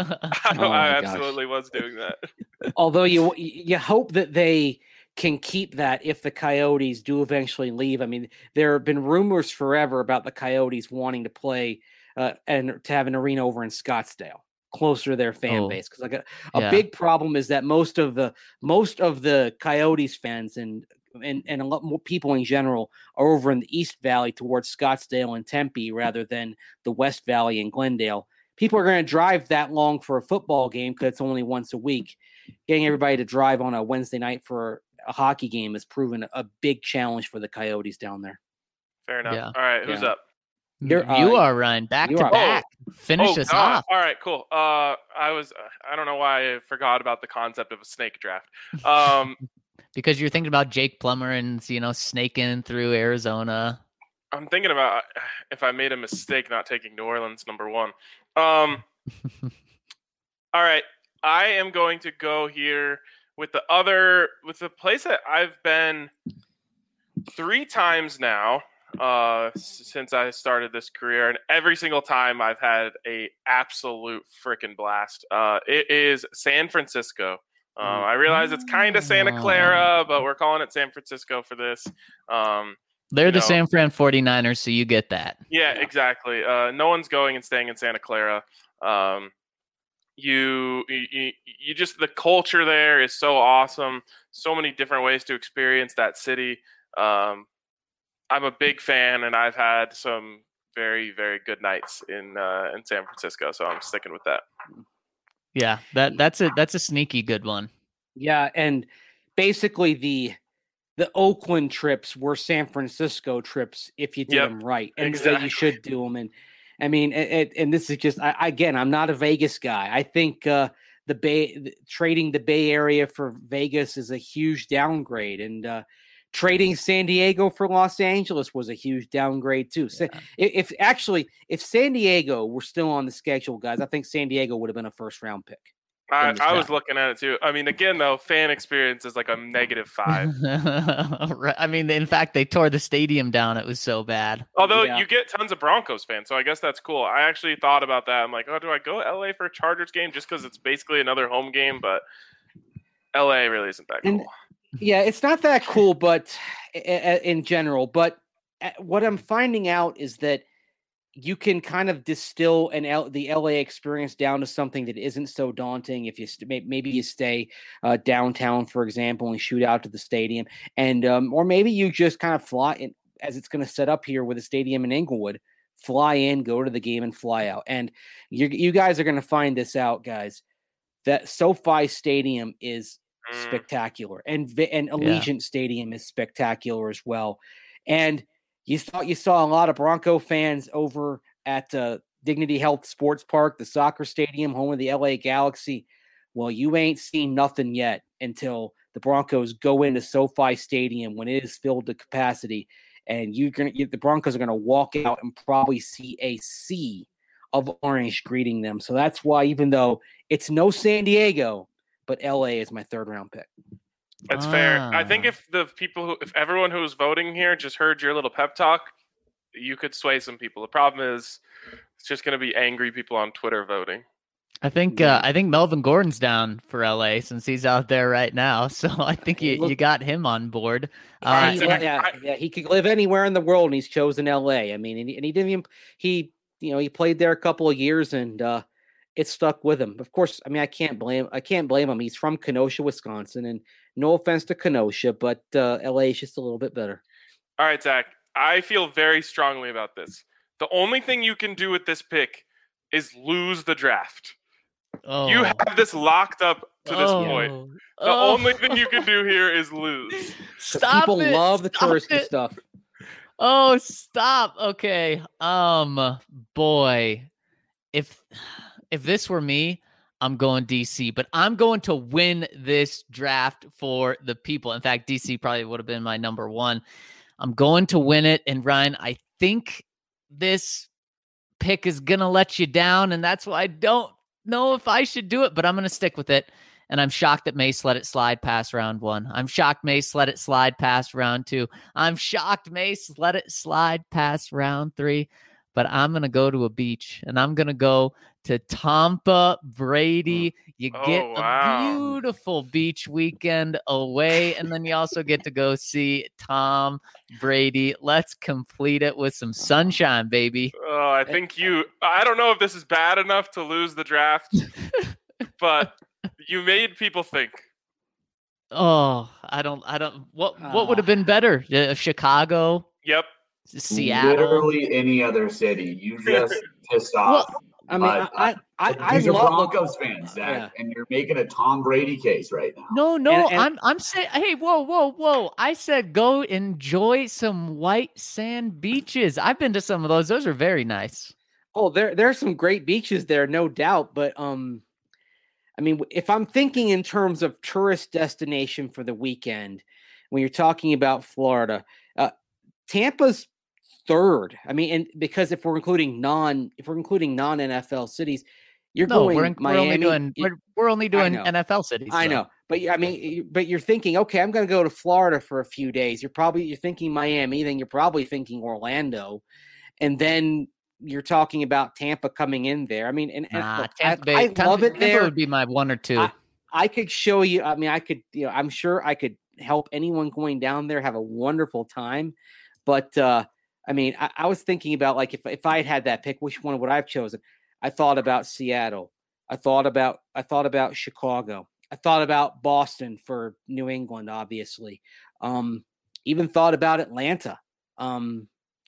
I absolutely was doing that. Although you hope that they can keep that if the Coyotes do eventually leave. I mean, there have been rumors forever about the Coyotes wanting to play and to have an arena over in Scottsdale, closer to their fan base. Because like a big problem is that most of the Coyotes fans and a lot more people in general are over in the East Valley towards Scottsdale and Tempe rather than the West Valley and Glendale. People are going to drive that long for a football game because it's only once a week. Getting everybody to drive on a Wednesday night for a hockey game has proven a big challenge for the Coyotes down there. Fair enough. Yeah. All right, who's up? You are, Ryan. Back to back. Finish us off. All right, cool. I don't know why I forgot about the concept of a snake draft. Because you're thinking about Jake Plummer and, snaking through Arizona. I'm thinking about if I made a mistake not taking New Orleans number 1. All right, I am going to go here with the place that I've been 3 times now since I started this career, and every single time I've had a absolute freaking blast. It is San Francisco. I realize it's kind of Santa Clara, but we're calling it San Francisco for this. They're the San Fran 49ers, so you get that. Yeah, exactly. No one's going and staying in Santa Clara. You just, the culture there is so awesome. So many different ways to experience that city. I'm a big fan, and I've had some very, very good nights in San Francisco, so I'm sticking with that. Yeah, that's a sneaky good one. Yeah, and basically the Oakland trips were San Francisco trips if you did them right, and exactly. You should do them. And I mean, and this is just again, I'm not a Vegas guy. I think trading the Bay Area for Vegas is a huge downgrade, and trading San Diego for Los Angeles was a huge downgrade too. So if San Diego were still on the schedule, guys, I think San Diego would have been a first-round pick. I was looking at it too. I mean, again, though, fan experience is like a -5. Right. I mean, in fact, they tore the stadium down. It was so bad. Although you get tons of Broncos fans, so I guess that's cool. I actually thought about that. I'm like, do I go LA for a Chargers game just because it's basically another home game? But LA really isn't that cool. Yeah, it's not that cool, but in general. But what I'm finding out is that you can kind of distill the LA experience down to something that isn't so daunting. If you maybe you stay downtown, for example, and shoot out to the stadium, and or maybe you just kind of fly in, as it's going to set up here with a stadium in Inglewood. Fly in, go to the game, and fly out. And you guys are going to find this out, guys. That SoFi Stadium is spectacular, and Allegiant Stadium is spectacular as well. And you saw a lot of Bronco fans over at Dignity Health Sports Park, the soccer stadium, home of the LA Galaxy. Well, you ain't seen nothing yet until the Broncos go into SoFi Stadium when it is filled to capacity, and the Broncos are gonna walk out and probably see a sea of orange greeting them. So that's why, even though it's no San Diego, but LA is my 3rd-round pick. That's fair. I think if everyone who was voting here just heard your little pep talk, you could sway some people. The problem is it's just going to be angry people on Twitter voting. I think Melvin Gordon's down for LA since he's out there right now. So I think you got him on board. He could live anywhere in the world, and he's chosen LA. I mean, and he didn't even he played there a couple of years, and it stuck with him. Of course, I mean, I can't blame him. He's from Kenosha, Wisconsin, and no offense to Kenosha, but LA is just a little bit better. All right, Zach, I feel very strongly about this. The only thing you can do with this pick is lose the draft. Oh. You have this locked up to this point. The only thing you can do here is lose. People love the touristy stuff. Oh, stop. Okay. Boy, if this were me, I'm going DC, but I'm going to win this draft for the people. In fact, DC probably would have been my number 1. I'm going to win it. And Ryan, I think this pick is going to let you down. And that's why I don't know if I should do it, but I'm going to stick with it. And I'm shocked that Mace let it slide past round 1. I'm shocked Mace let it slide past round 2. I'm shocked Mace let it slide past round 3. but I'm going to go to a beach, and I'm going to go to Tampa, Brady. You get wow. a beautiful beach weekend away, and then you also get to go see Tom Brady. Let's complete it with some sunshine, baby. Oh, I don't know if this is bad enough to lose the draft, but you made people think. Oh, I don't. What would have been better? Chicago? Yep. Seattle? Literally any other city. You just pissed off. Well, I mean, I these are love Broncos fans, Zach, and you're making a Tom Brady case right now. No, I'm saying, hey, whoa. I said go enjoy some white sand beaches. I've been to some of those. Those are very nice. Oh, there are some great beaches there, no doubt. But I mean, if I'm thinking in terms of tourist destination for the weekend, when you're talking about Florida, Tampa's third. I mean, and because if we're including non NFL cities, going Miami. We're only doing NFL cities. I know, but I mean, but you're thinking, okay, I'm going to go to Florida for a few days. You're thinking Miami, then you're probably thinking Orlando, and then you're talking about Tampa coming in there. I mean, I love it there. Tampa would be my one or two. I could show you. I mean, I could. I'm sure I could help anyone going down there have a wonderful time. But I mean, I was thinking about like if I had that pick, which one would I have chosen? I thought about Seattle. I thought about Chicago. I thought about Boston for New England, obviously. Even thought about Atlanta. And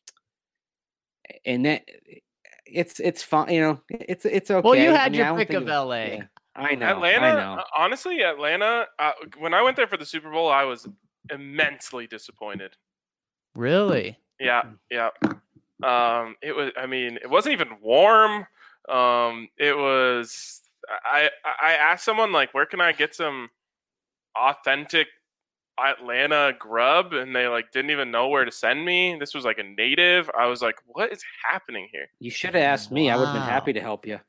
that it's fine, it's okay. Well, you had your pick of LA. Yeah, I know. Atlanta, honestly, when I went there for the Super Bowl, I was immensely disappointed. Really? Yeah. It wasn't even warm. It was. I asked someone like, where can I get some authentic Atlanta grub, and they like didn't even know where to send me. This was like a native. I was like, what is happening here? You should have asked me. I would have been happy to help you.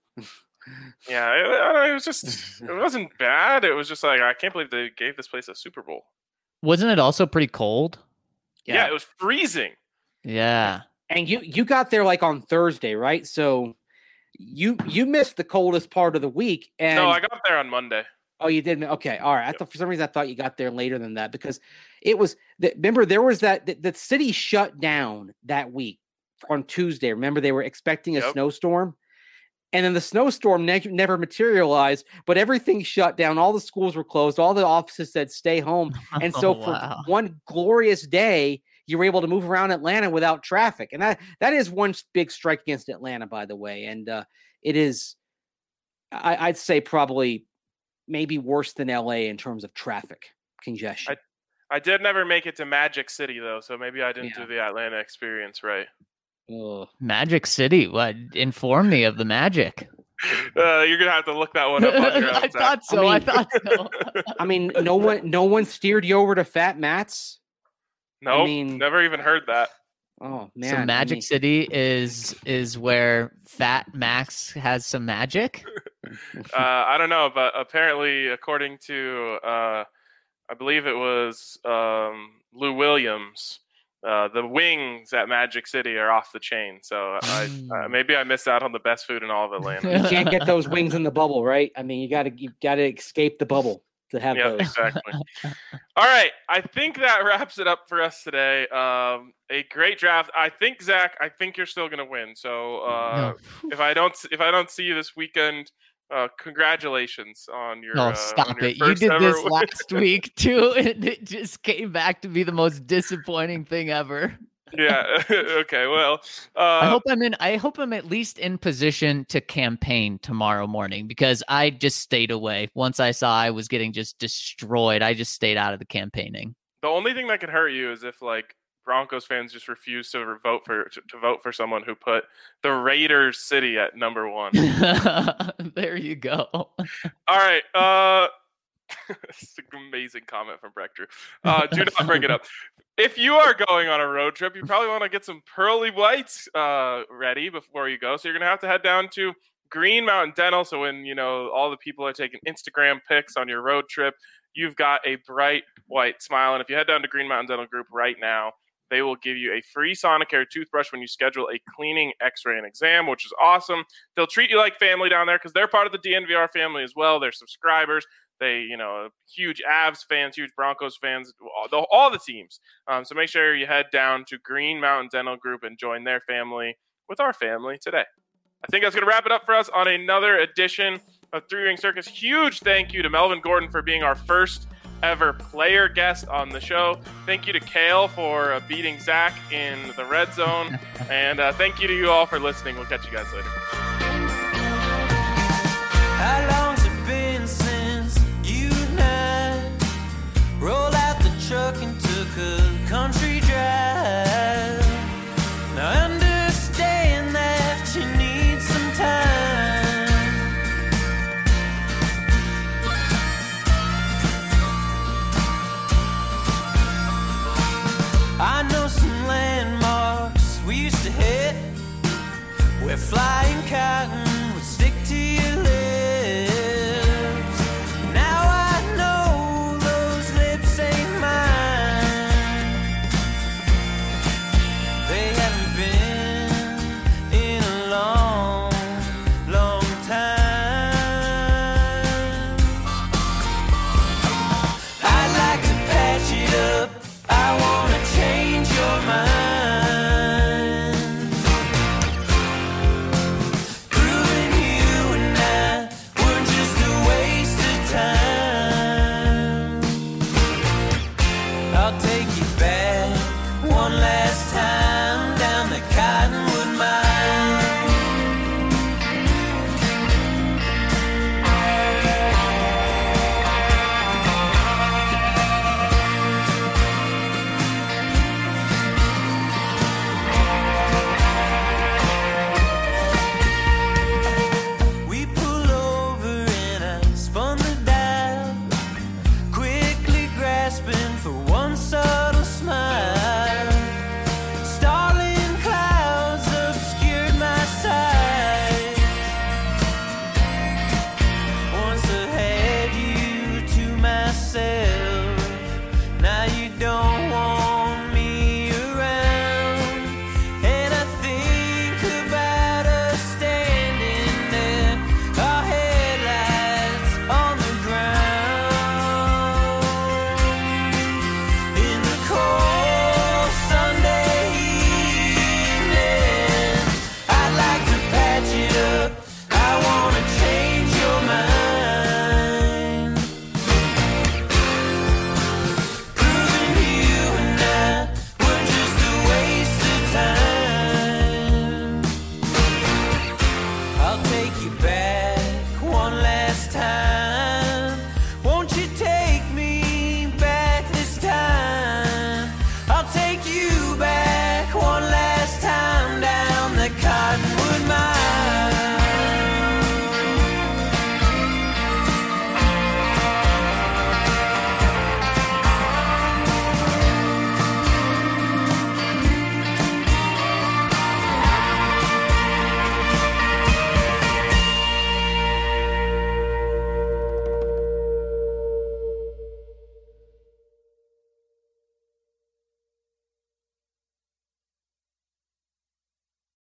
Yeah, it was just. It wasn't bad. It was just like, I can't believe they gave this place a Super Bowl. Wasn't it also pretty cold? Yeah, it was freezing. Yeah. And you got there like on Thursday, right? So you missed the coldest part of the week. And no, I got there on Monday. Oh, you did? Okay. All right. I thought for some reason I thought you got there later than that because it was remember there was the city shut down that week on Tuesday. Remember they were expecting a snowstorm, and then the snowstorm never materialized, but everything shut down. All the schools were closed. All the offices said stay home. And so for one glorious day, you were able to move around Atlanta without traffic. And that is one big strike against Atlanta, by the way. And it is, I'd say probably maybe worse than LA in terms of traffic congestion. I did never make it to Magic City though, so maybe I didn't do the Atlanta experience right. Magic City? What? Inform me of the magic. You're gonna have to look that one up on your own. I thought so. I mean, no one steered you over to Fat Matt's. No, never even heard that. Oh man! So Magic City is where Fat Max has some magic. I don't know, but apparently, according to I believe it was Lou Williams, the wings at Magic City are off the chain. So maybe I missed out on the best food in all of Atlanta. You can't get those wings in the bubble, right? I mean, you got to escape the bubble to have those. Exactly. All right, I think that wraps it up for us today. A great draft. I think Zach, you're still going to win. So if I don't see you this weekend, congratulations on your. Stop it! You did this last week too, and it just came back to be the most disappointing thing ever. Yeah. Okay. Well, I hope I'm at least in position to campaign tomorrow morning because I just stayed away. Once I saw I was getting just destroyed, I just stayed out of the campaigning. The only thing that could hurt you is if like Broncos fans just refuse to vote for someone who put the Raiders city at number 1. There you go. All right. It's an amazing comment from Breck Drew. Do not bring it up. If you are going on a road trip, you probably want to get some pearly whites ready before you go. So you're going to have to head down to Green Mountain Dental. So when, all the people are taking Instagram pics on your road trip, you've got a bright white smile. And if you head down to Green Mountain Dental Group right now, they will give you a free Sonicare toothbrush when you schedule a cleaning, x-ray, and exam, which is awesome. They'll treat you like family down there because they're part of the DNVR family as well. They're subscribers. They, huge Avs fans, huge Broncos fans, all the teams. So make sure you head down to Green Mountain Dental Group and join their family with our family today. I think that's going to wrap it up for us on another edition of Three Ring Circus. Huge thank you to Melvin Gordon for being our first ever player guest on the show. Thank you to Kale for beating Zach in the red zone. And thank you to you all for listening. We'll catch you guys later. How long's it been since you and I rolled out the truck and took a country drive? Now I understand that you need some time. I know some landmarks we used to hit. We're flying cotton